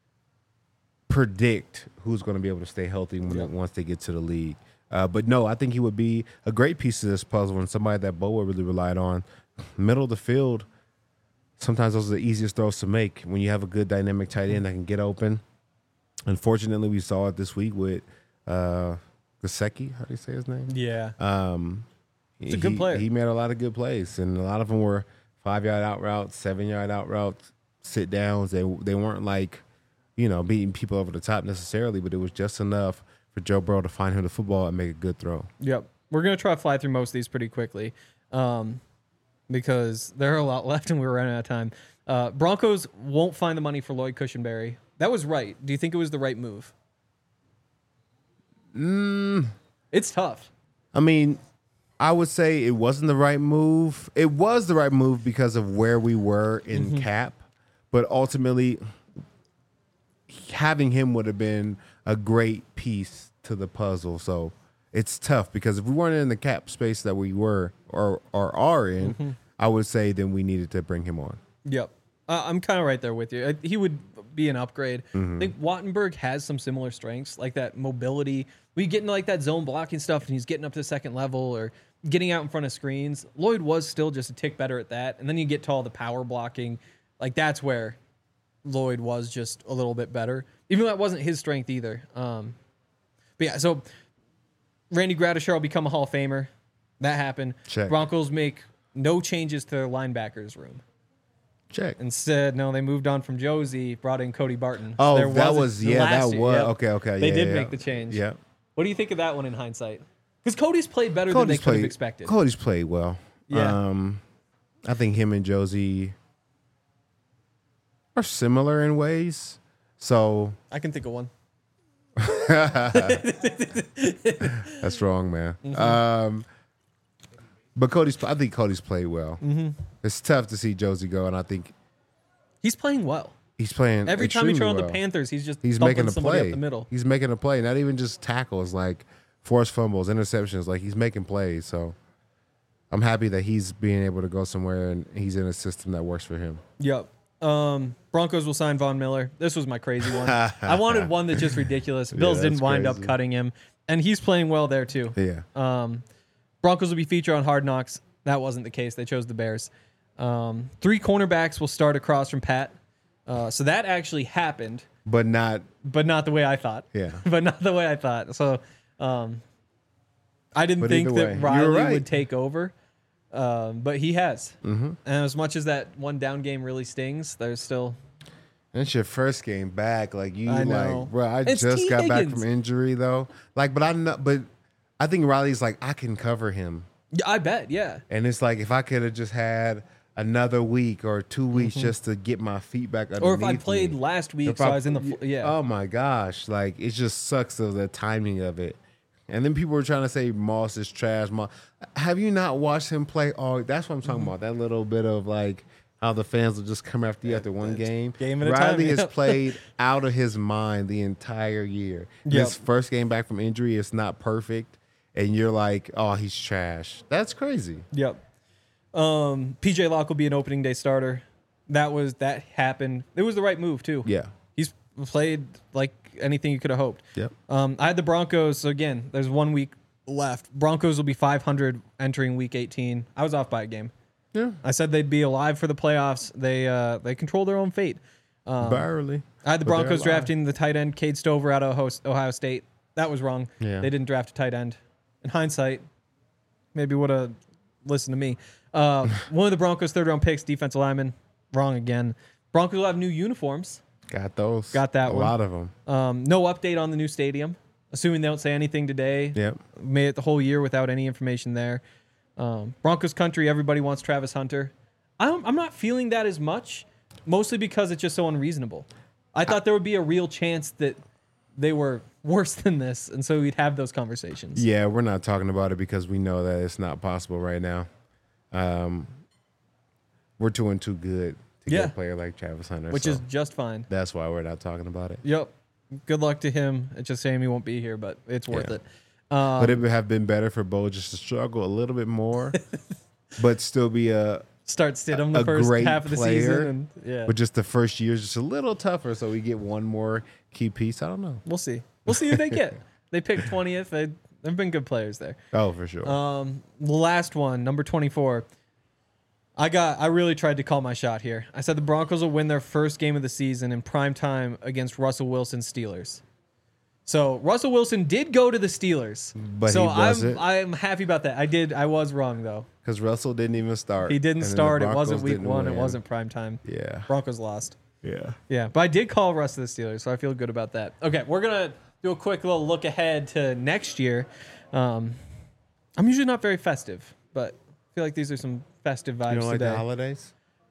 predict who's going to be able to stay healthy when, Yeah. once they get to the league. Uh, but no, I think he would be a great piece of this puzzle and somebody that Boa really relied on. Middle of the field, sometimes those are the easiest throws to make when you have a good dynamic tight end that can get open. Unfortunately, we saw it this week with uh, Gesicki. How do you say his name? Yeah. Um, He's a good he- player. He made a lot of good plays, and a lot of them were five-yard out routes, seven-yard out routes, sit-downs. They they weren't like, you know, beating people over the top necessarily, but it was just enough for Joe Burrow to find him the football and make a good throw. Yep. We're going to try to fly through most of these pretty quickly um, because there are a lot left and we're running out of time. Uh, Broncos won't find the money for Lloyd Cushenberry. That was right. Do you think it was the right move? Mm, It's tough. I mean, I would say it wasn't the right move. It was the right move because of where we were in Mm-hmm. cap, but ultimately having him would have been a great piece to the puzzle. So it's tough because if we weren't in the cap space that we were or, or are in, Mm-hmm. I would say then we needed to bring him on. Yep. Uh, I'm kind of right there with you. Uh, He would be an upgrade. Mm-hmm. I think Wattenberg has some similar strengths, like that mobility. We get into like that zone blocking stuff, and he's getting up to the second level or getting out in front of screens. Lloyd was still just a tick better at that. And then you get to all the power blocking. Like, that's where Lloyd was just a little bit better, even though that wasn't his strength either. Um, but yeah, so Randy Gradishar will become a Hall of Famer. That happened. Check. Broncos make no changes to their linebackers room. Check. Instead, no, they moved on from Josie, brought in Cody Barton. Oh, There that wasn't- was, yeah, last that year, was, yep. okay, okay. They yeah, did yeah, make yeah. the change. Yeah. What do you think of that one in hindsight? Because Cody's played better than Cody's they could have played, expected. Cody's played well. Yeah. Um, I think him and Josie are similar in ways. So I can think of one. that's wrong, man. Mm-hmm. Um, but Cody's, I think Cody's played well. Mm-hmm. It's tough to see Josie go, and I think He's playing well. he's playing Every time he extremely tries on well. the Panthers, he's just He's thumping making a somebody play. up the middle. He's making a play, not even just tackles, like forced fumbles, interceptions. Like he's making plays. So I'm happy that he's being able to go somewhere and he's in a system that works for him. Yep. Um, Broncos will sign Von Miller. This was my crazy one. I wanted one that's just ridiculous. Bills Yeah, didn't that's wind up crazy. cutting him, and he's playing well there too. Yeah. Um, Broncos will be featured on Hard Knocks. That wasn't the case. They chose the Bears. Um, three cornerbacks will start across from Pat. Uh, so that actually happened, But not, but not the way I thought. yeah. but not the way I thought. So um, I didn't But think either that way, you were Riley right. would take over, um, but he has. Mm-hmm. And as much as that one down game really stings, there's still That's your first game back. Like you, I know. like, bro. I It's just T. got back Higgins. from injury though. Like, but I know, but I think Riley's like I can cover him, Yeah, I bet, yeah. and it's like if I could have just had another week or two weeks just to get my feet back underneath Mm-hmm. Or if I played me. last week, If so I, was in the fl- yeah. Oh my gosh! Like it just sucks of the timing of it. And then people were trying to say Moss is trash. Moss. Have you not watched him play? Oh, that's what I'm talking Mm-hmm. about. That little bit of like how the fans will just come after you after one game. game at a time, Riley has yeah. played out of his mind the entire year. Yep. His first game back from injury is not perfect, and you're like, oh, he's trash. That's crazy. Yep. Um, P J Locke will be an opening day starter. That was that happened. It was the right move too. Yeah. He's played like anything you could have hoped. Yep. Um, I had the Broncos. So again, there's one week left. Broncos will be five hundred entering week eighteen. I was off by a game. Yeah. I said they'd be alive for the playoffs. They uh, they control their own fate. Um, Barely. I had the But they're Broncos alive. drafting the tight end Cade Stover out of Ohio- Ohio State. That was wrong. Yeah. They didn't draft a tight end. In hindsight, maybe would have listened to me. Uh, one of the Broncos' third round picks, defensive lineman. Wrong again. Broncos will have new uniforms. Got those. Got that a one. lot of them. Um, no update on the new stadium. Assuming they don't say anything today. Yep. Made it the whole year without any information there. Um, Broncos country, everybody wants Travis Hunter. I'm, I'm not feeling that as much, mostly because it's just so unreasonable. I thought there would be a real chance that they were worse than this, and so we'd have those conversations. Yeah, we're not talking about it because we know that it's not possible right now. Um, we're doing too good to Yeah. get a player like Travis Hunter, Which so is just fine. that's why we're not talking about it. Yep. Good luck to him. It's just saying he won't be here, but it's worth Yeah. it. Um, But it would have been better for Bo just to struggle a little bit more, but still be a. start Stidham the a first great half of the player, season. And, yeah. But just the first year is just a little tougher, so we get one more key piece. I don't know. We'll see. We'll see who they get. They picked twentieth. They, they've been good players there. Oh, for sure. Um, the last one, number twenty-four. I got. I really tried to call my shot here. I said the Broncos will win their first game of the season in prime time against Russell Wilson's Steelers. So Russell Wilson did go to the Steelers, But so he wasn't. I'm I'm happy about that. I did. I was wrong though. Because Russell didn't even start. He didn't and then the start. It Broncos wasn't week didn't one. It win. wasn't prime time. Yeah. Broncos lost. Yeah. Yeah, but I did call Russ to the Steelers, so I feel good about that. Okay, we're gonna do a quick little look ahead to next year. Um, I'm usually not very festive, but I feel like these are some festive vibes You don't like today. the holidays?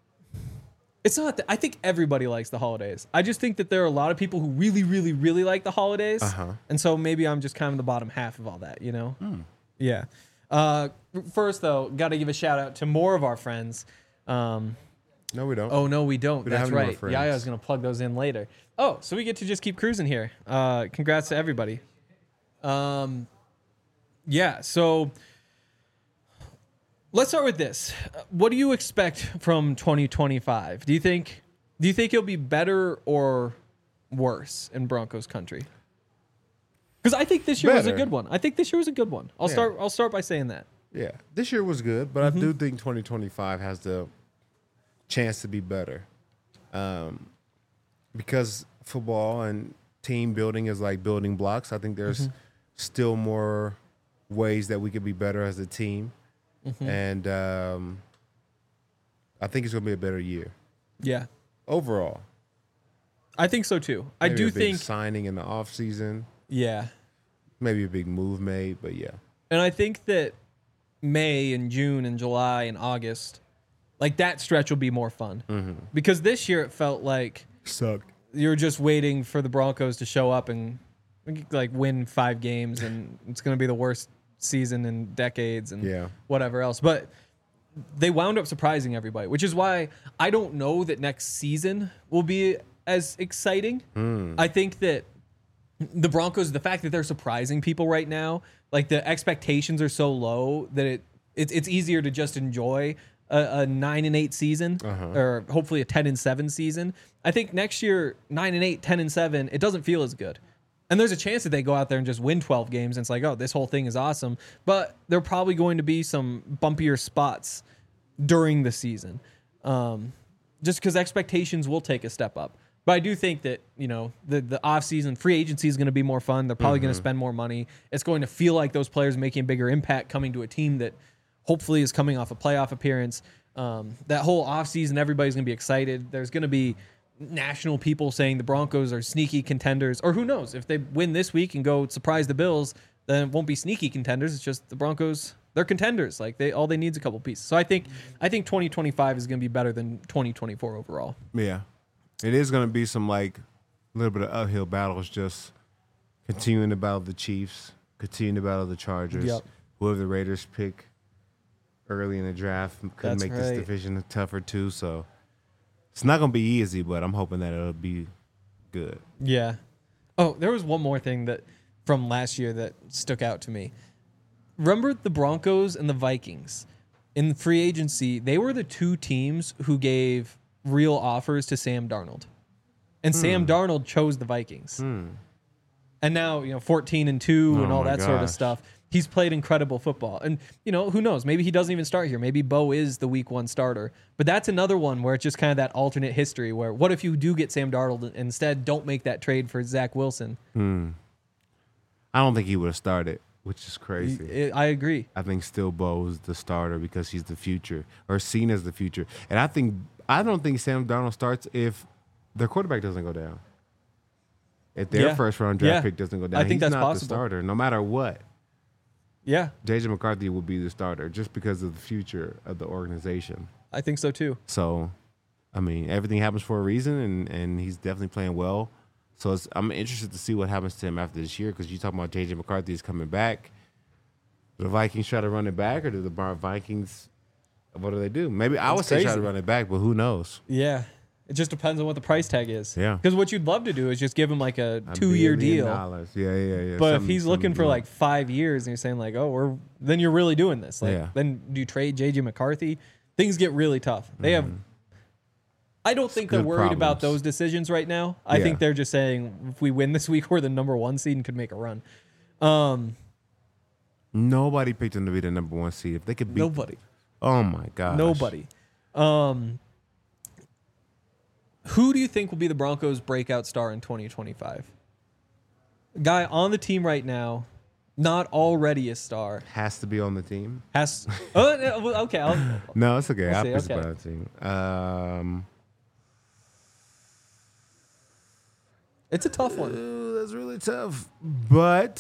It's not. That, I think everybody likes the holidays. I just think that there are a lot of people who really, really, really like the holidays, Uh-huh. and so maybe I'm just kind of the bottom half of all that. You know? Yeah. Uh, first, though, got to give a shout out to more of our friends. Um, No, we don't. Oh no, we don't. We don't That's have any more right. friends. Yaya's gonna plug those in later. Oh, so we get to just keep cruising here. Uh, congrats to everybody. Um, yeah. So let's start with this. Uh, What do you expect from twenty twenty-five? Do you think? Do you think it'll be better or worse in Broncos country? Because I think this year was a Better. good one. I think this year was a good one. I'll Yeah. start. I'll start by saying that. Yeah. This year was good, but Mm-hmm. I do think twenty twenty-five has the chance to be better. Um, because football and team building is like building blocks. I think there's Mm-hmm. still more ways that we could be better as a team. Mm-hmm. And um, I think it's going to be a better year Yeah, overall. I think so too. I Maybe do a big think. signing in the offseason, Yeah. maybe a big move made, but yeah. And I think that May and June and July and August, like that stretch will be more fun. Mm-hmm. Because this year it felt like Sucked. you were just waiting for the Broncos to show up and like win five games, and it's going to be the worst season in decades and Yeah. whatever else. But they wound up surprising everybody, which is why I don't know that next season will be as exciting. I think that the Broncos, the fact that they're surprising people right now, like the expectations are so low that it it's it's easier to just enjoy a, a nine and eight season or hopefully a ten and seven season. I think next year nine and eight, ten and seven, it doesn't feel as good. And there's a chance that they go out there and just win twelve games and it's like, oh, this whole thing is awesome. But there are probably going to be some bumpier spots during the season, um, just because expectations will take a step up. But I do think that, you know, the, the offseason free agency is going to be more fun. They're probably going to spend more money. It's going to feel like those players making a bigger impact coming to a team that hopefully is coming off a playoff appearance. Um, that whole offseason, everybody's going to be excited. There's going to be national people saying the Broncos are sneaky contenders. Or who knows? If they win this week and go surprise the Bills, then it won't be sneaky contenders. It's just the Broncos, they're contenders. Like they all they need is a couple pieces. So I think I think twenty twenty-five is going to be better than twenty twenty-four overall. Yeah. It is going to be some, like, a little bit of uphill battles, just continuing to battle the Chiefs, continuing to battle the Chargers. Yep. Whoever the Raiders pick early in the draft could That's make right. this division tougher, too. So it's not going to be easy, but I'm hoping that it'll be good. Yeah. Oh, there was one more thing that from last year that stuck out to me. Remember the Broncos and the Vikings in free agency? They were the two teams who gave real offers to Sam Darnold, and Hmm. Sam Darnold chose the Vikings. And now, you know, fourteen and two and Oh all my that sort of gosh. stuff. He's played incredible football. And, you know, who knows? Maybe he doesn't even start here. Maybe Bo is the week one starter. But that's another one where it's just kind of that alternate history where what if you do get Sam Darnold and instead don't make that trade for Zach Wilson? I don't think he would have started, which is crazy. I agree. I think still Bo's the starter because he's the future, or seen as the future. And I think I don't think Sam Darnold starts if their quarterback doesn't go down. If their Yeah. first round draft Yeah. pick doesn't go down, I think he's that's not possible. the starter, no matter what. Yeah, J J McCarthy will be the starter just because of the future of the organization. I think so too. So, I mean, everything happens for a reason, and, and he's definitely playing well. So it's, I'm interested to see what happens to him after this year because you talking about J J McCarthy is coming back. Do the Vikings try to run it back, or do the Bar- Vikings? What do they do? Maybe I It's would say try crazy. to run it back, but who knows? Yeah. It just depends on what the price tag is. Yeah. Because what you'd love to do is just give him like a A two-year billion deal. dollars. Yeah, yeah, yeah. But if Something- he's looking something for good. like five years and you're saying like, oh, we're then you're really doing this. Like Yeah. then do you trade J J McCarthy? Things get really tough. They have I don't think they're good worried about problems. those decisions right now. I Yeah. think they're just saying if we win this week, we're the number one seed and could make a run. Um Nobody picked him to be the number one seed. If they could beat, nobody. Oh my god, Nobody. Um who do you think will be the Broncos' breakout star in twenty twenty-five? A guy on the team right now, not already a star. has to be on the team. Has oh no, well, okay. I'll, No, it's okay. We'll I'll see, pick okay. somebody on the team. Um, it's a tough one. ooh, that's really tough. But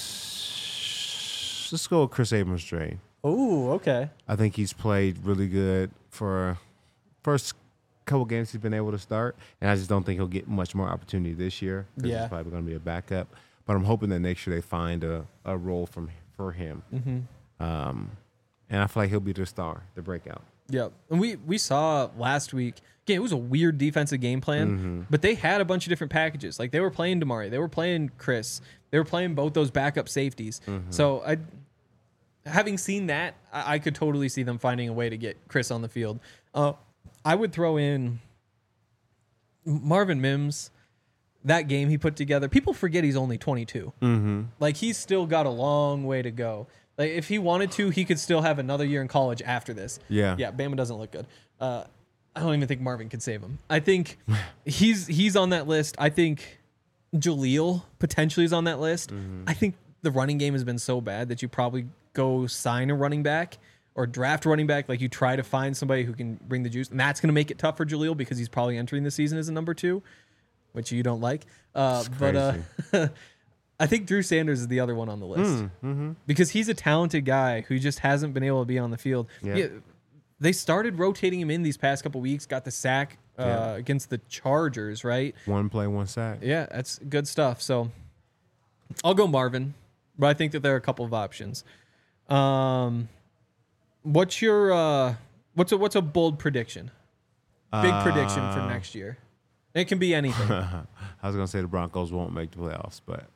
let's go with Chris Abrams-Drain. Oh, okay. I think he's played really good for first couple games he's been able to start, and I just don't think he'll get much more opportunity this year. 'Cause Yeah. he's probably going to be a backup. But I'm hoping that next year they find a, a role from for him. Mm-hmm. Um, and I feel like he'll be the star, the breakout. Yep. And we we saw last week. Again, it was a weird defensive game plan, Mm-hmm. but they had a bunch of different packages. Like they were playing Damari, they were playing Chris, they were playing both those backup safeties. Mm-hmm. So I, having seen that, I, I could totally see them finding a way to get Chris on the field. Uh, I would throw in Marvin Mims. That game he put together. People forget he's only twenty-two. Mm-hmm. Like he's still got a long way to go. Like if he wanted to, he could still have another year in college after this. Yeah. Yeah, Bama doesn't look good. Uh, I don't even think Marvin could save him. I think he's he's on that list. I think Jaleel potentially is on that list. I think the running game has been so bad that you probably go sign a running back or draft a running back. Like you try to find somebody who can bring the juice, and that's going to make it tough for Jaleel because he's probably entering the season as a number two, which you don't like. Uh, but uh, I think Drew Sanders is the other one on the list Mm, mm-hmm. because he's a talented guy who just hasn't been able to be on the field. Yeah. Yeah, they started rotating him in these past couple weeks. Got the sack uh, Yeah. against the Chargers, right? One play, one sack. Yeah, that's good stuff. So I'll go Marvin, but I think that there are a couple of options. Um, what's your uh, what's a what's a bold prediction? Big prediction for Uh, next year. It can be anything. I was gonna say the Broncos won't make the playoffs, but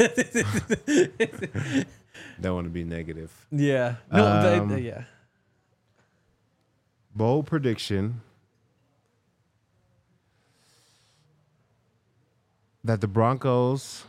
don't want to be negative. Yeah. No. they- Um, they- yeah. Bold prediction that the Broncos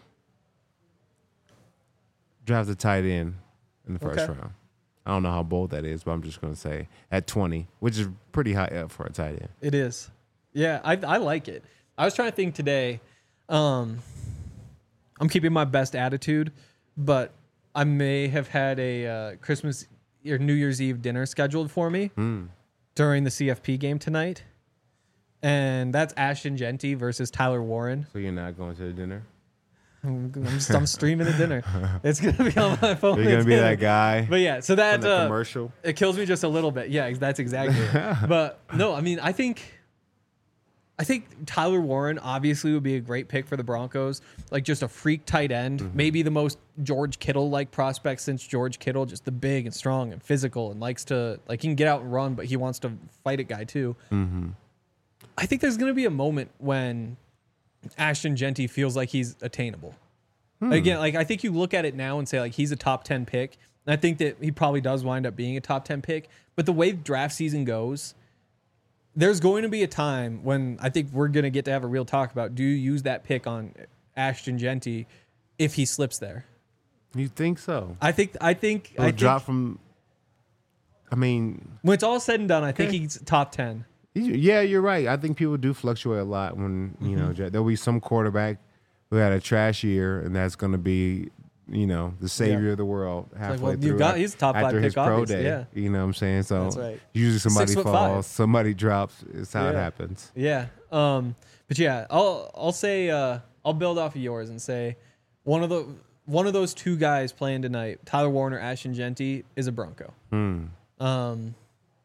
draft a tight end in the first Okay. round. I don't know how bold that is, but I'm just going to say at twenty, which is pretty high up for a tight end. It is. Yeah, I I like it. I was trying to think today. Um, I'm keeping my best attitude, but I may have had a uh, Christmas or New Year's Eve dinner scheduled for me Mm. during the C F P game tonight, and that's Ashton Genty versus Tyler Warren. So you're not going to the dinner? I'm, I'm, just, I'm streaming the dinner. It's gonna be on my phone. You're going to be It's that guy But yeah, so from that the uh, commercial? it kills me just a little bit. Yeah, that's exactly it. But no, I mean, I think, I think Tyler Warren obviously would be a great pick for the Broncos. Like just a freak tight end, Mm-hmm. maybe the most George Kittle like prospect since George Kittle, just the big and strong and physical and likes to like he can get out and run, but he wants to fight a guy too. Mm-hmm. I think there's gonna be a moment when Ashton Genty feels like he's attainable. Hmm. Again, like I think you look at it now and say like he's a top ten pick. And I think that he probably does wind up being a top ten pick. But the way draft season goes, there's going to be a time when I think we're going to get to have a real talk about do you use that pick on Ashton Genty if he slips there? You think so? I think I think He'll I think drop from, I mean, when it's all said and done, I think Okay. he's top ten. yeah, you're right. I think people do fluctuate a lot when, you know, Mm-hmm. there'll be some quarterback who had a trash year, and that's going to be, you know, the savior Yeah. of the world halfway well, you through. got- af- he's a top five after his pick, pro obviously, day. yeah. You know what I'm saying? So That's right. usually somebody Six foot falls, five. somebody drops. It's how it Yeah. happens. Yeah. Um, but yeah, I'll I'll say uh, I'll build off of yours and say one of the one of those two guys playing tonight, Tyler Warren or Ashton Genty, is a Bronco. Hmm. Um,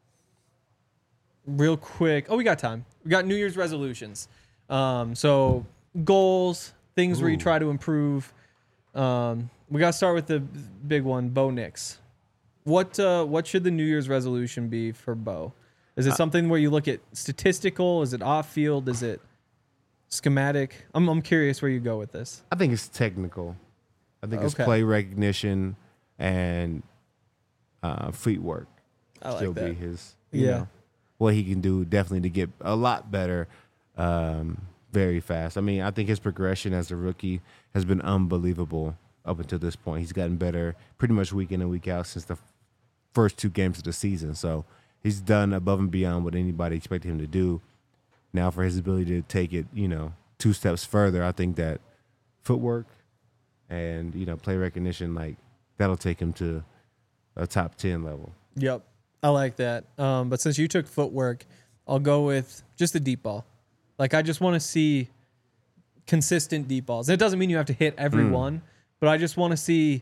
real quick. Oh, we got time. We got New Year's resolutions. Um, so goals, things where you Ooh. try to improve. Um, we got to start with the big one, Bo Nix. What uh, what should the New Year's resolution be for Bo? Is it something where you look at statistical? Is it off field? Is it schematic? I'm I'm curious where you go with this. I think it's technical. I think it's Okay. play recognition and uh, footwork. I like Still be that. his, you Yeah. know, what he can do definitely to get a lot better um, very fast. I mean, I think his progression as a rookie has been unbelievable up until this point. He's gotten better pretty much week in and week out since the f- first two games of the season. So he's done above and beyond what anybody expected him to do. Now for his ability to take it, you know, two steps further, I think that footwork and, you know, play recognition, like that'll take him to a top ten level. Yep. I like that. Um, but since you took footwork, I'll go with just the deep ball. Like, I just want to see consistent deep balls. It doesn't mean you have to hit every Mm. one, but I just want to see.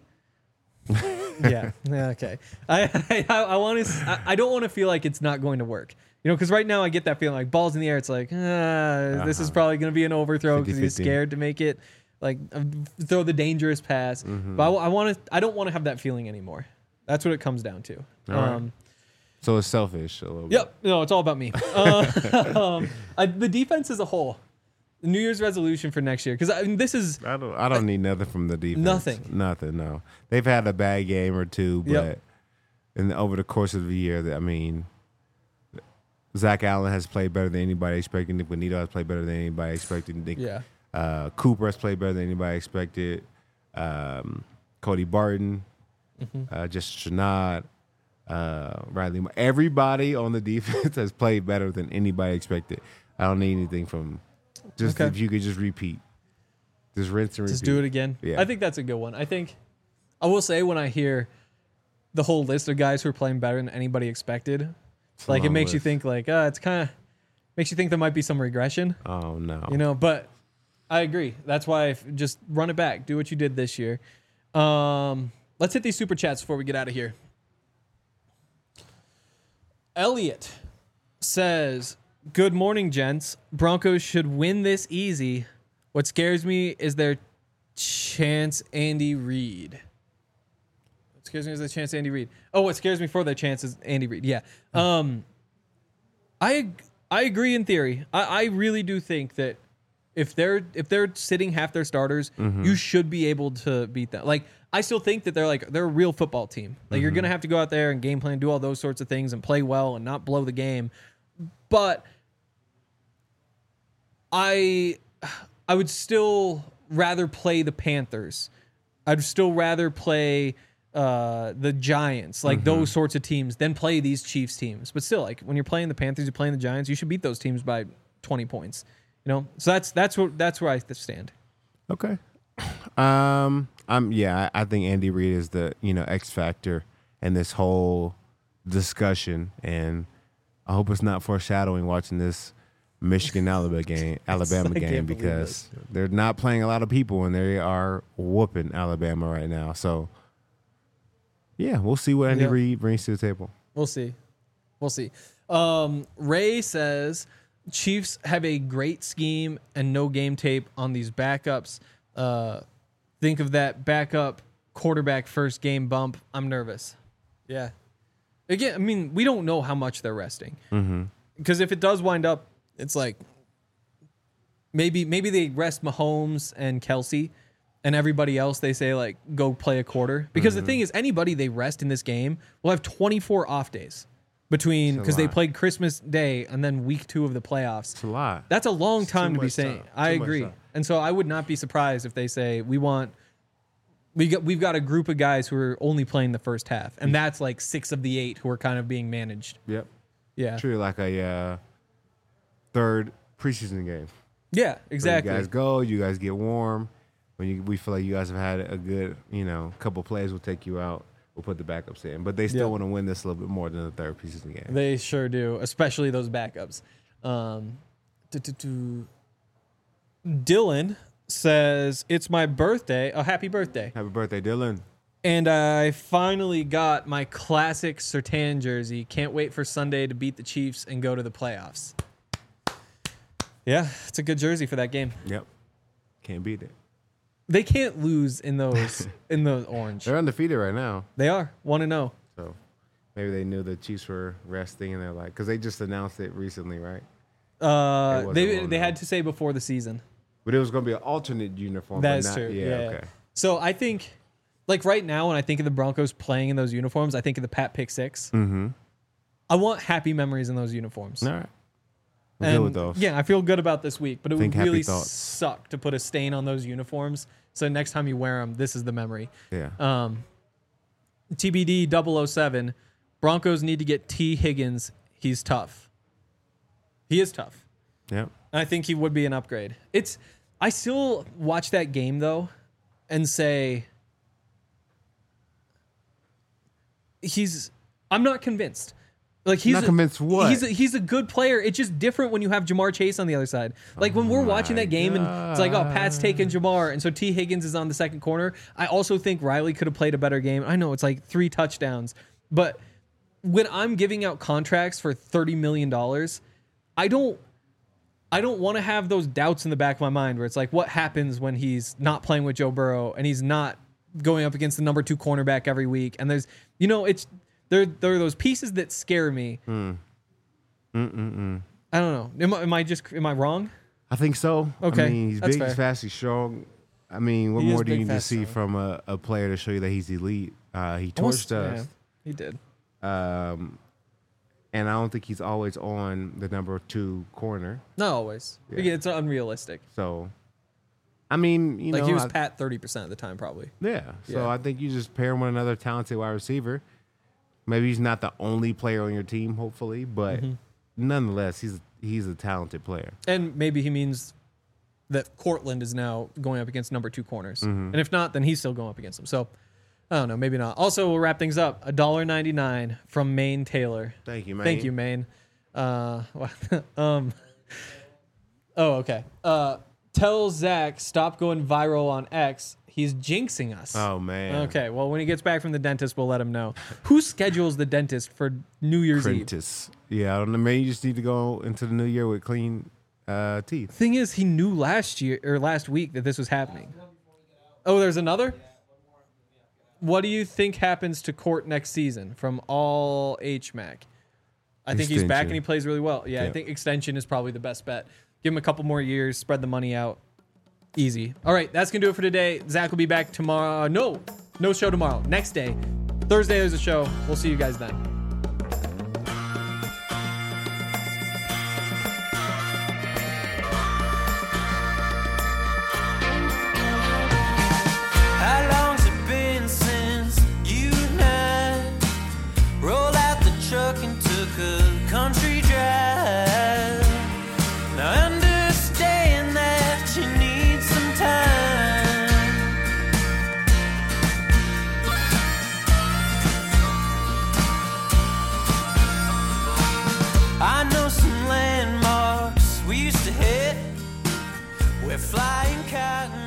yeah. Yeah. Okay. I I, I want to. I, I don't want to feel like it's not going to work. You know, because right now I get that feeling like balls in the air. It's like, ah, this is Uh-huh. probably going to be an overthrow because he's fifty-fifty. scared to make it. Like, uh, throw the dangerous pass. Mm-hmm. But I, want to. I don't want to have that feeling anymore. That's what it comes down to. All right. Um, So it's selfish a little Yep. No, it's all about me. Uh, um, I, the defense as a whole, the New Year's resolution for next year, because I mean, this is bit. I don't. I don't need nothing from the defense. Nothing. Nothing. No. They've had a bad game or two, but Yep. in the, over the course of the year, that I mean, Zach Allen has played better than anybody expected. Nick Bonito has played better than anybody expected. Nick, yeah, uh, Cooper has played better than anybody expected. Um, Cody Barton, Mm-hmm. uh, just Shanad, uh, Riley. Mo- Everybody on the defense has played better than anybody expected. I don't need anything from. Just Okay. if you could just repeat, just rinse and repeat. just do it again. Yeah. I think that's a good one. I think I will say when I hear the whole list of guys who are playing better than anybody expected, It's a like it long makes you list. think like, uh, it's kind of makes you think there might be some regression, Oh no. you know. But I, I agree. That's why I f- just run it back. Do what you did this year. Um, let's hit these super chats before we get out of here. Elliot says, "Good morning, gents. Broncos should win this easy. What scares me is their chance Andy Reid." What scares me is their chance Andy Reid. Oh, what scares me for their chance is Andy Reid. Yeah. Um, I I agree in theory. I, I really do think that if they're if they're sitting half their starters, Mm-hmm. you should be able to beat them. Like I still think that they're like they're a real football team. Like you're gonna have to go out there and game plan, do all those sorts of things, and play well and not blow the game. But I I would still rather play the Panthers. I'd still rather play uh, the Giants, like those sorts of teams, than play these Chiefs teams. But still, like when you're playing the Panthers, you're playing the Giants, you should beat those teams by twenty points. You know, so that's that's what that's where I stand. Okay. Um. I'm. Yeah. I, I think Andy Reid is the you know X factor in this whole discussion, and I hope it's not foreshadowing watching this Michigan Alabama game, Alabama I game can't believe because they're not playing a lot of people and they are whooping Alabama right now. So yeah, we'll see what Andy Yeah. Reid brings to the table. We'll see. We'll see. Um, Ray says Chiefs have a great scheme and no game tape on these backups. Uh, think of that backup quarterback first game bump. I'm nervous. Yeah. Again, I mean, we don't know how much they're resting. Because if it does wind up, it's like maybe maybe they rest Mahomes and Kelsey, and everybody else they say like go play a quarter. Because the thing is, anybody they rest in this game will have twenty-four off days between It's a because they lot. played Christmas Day and then week two of the playoffs. It's a lot. That's a long It's time too to be much saying. time. I Too much agree, time. and so I would not be surprised if they say we want. We got we've got a group of guys who are only playing the first half, and that's like six of the eight who are kind of being managed. Yep. Yeah, Treat it like a uh, third preseason game. yeah, Where exactly. You guys go. You guys get warm. When you, we feel like you guys have had a good, you know, couple plays, we'll take you out. We'll put the backups in. But they still Yeah. want to win this a little bit more than the third preseason game. They sure do, especially those backups. Um, do, do, do. Dylan says it's my birthday. Oh, happy birthday! Happy birthday, Dylan. And I finally got my classic Surtain jersey. Can't wait for Sunday to beat the Chiefs and go to the playoffs. Yeah, it's a good jersey for that game. Yep. Can't beat it. They can't lose in those in the orange. They're undefeated right now. They are one and zero. So maybe they knew the Chiefs were resting and they're like, because they just announced it recently, right? It Uh, wasn't they one they and had oh. to say before the season. But it was going to be an alternate uniform. That but is not, true. Yeah, Yeah. okay. So I think, like right now, when I think of the Broncos playing in those uniforms, I think of the Pat Pick Six. Mm-hmm. I want happy memories in those uniforms. All right. We're And good with those. yeah, I feel good about this week, but it Think would happy really thoughts. suck to put a stain on those uniforms. So next time you wear them, this is the memory. Yeah. Um, T B D double oh seven, Broncos need to get T. Higgins. He's tough. He is tough. Yep. And I think he would be an upgrade. It's I still watch that game though and say he's I'm not convinced. Like he's Not a- convinced what? He's a, he's a good player. It's just different when you have Jamar Chase on the other side. Like when we're watching my that game and it's like, oh, Pat's taking Jamar, and so T. Higgins is on the second corner. I also think Riley could have played a better game. I know it's like three touchdowns, but when I'm giving out contracts for thirty million dollars, I don't I don't want to have those doubts in the back of my mind where it's like, what happens when he's not playing with Joe Burrow and he's not going up against the number two cornerback every week? And there's, you know, it's there. There are those pieces that scare me. Mm. Mm-mm-mm. I don't know. Am I, am I just am I wrong? I think so. Okay, I mean, he's that's big, fair. he's fast, he's strong. I mean, what He is more do you big, need to fast, see strong. from a, a player to show you that he's elite? Uh, he Almost- torched us. yeah, he did. Um, and I don't think he's always on the number two corner. Not always. Yeah. Again, it's unrealistic. So, I mean, you Like know, he was I- Pat thirty percent of the time, probably. yeah. So Yeah. I think you just pair him with another talented wide receiver. Maybe he's not the only player on your team, hopefully, but Mm-hmm. nonetheless, he's he's a talented player. And maybe he means that Cortland is now going up against number two corners. Mm-hmm. And if not, then he's still going up against them. So I don't know, maybe not. Also, we'll wrap things up. one dollar and ninety-nine cents from Maine Taylor. Thank you, man. Thank you, Maine. Uh, um, oh, okay. Uh, Tell Zach stop going viral on X. He's jinxing us. Oh man. Okay, well, when he gets back from the dentist, we'll let him know. Who schedules the dentist for New Year's Eve? Prentice. Yeah, I don't know. Maybe you just need to go into the new year with clean uh, teeth. Thing is, he knew last year or last week that this was happening. Oh, there's another? What do you think happens to Court next season from all H M A C? I think he's back Extension. and he plays really well. Yeah, I Yeah. think extension is probably the best bet. Give him a couple more years, spread the money out. Easy. All right, that's going to do it for today. Zach will be back tomorrow. No, no show tomorrow. Next day. Thursday, there's a show. We'll see you guys then. How long's it been since you and I rolled out the truck and took a country drive? Now I understand that you need some time. I know some landmarks we used to hit. We're flying cotton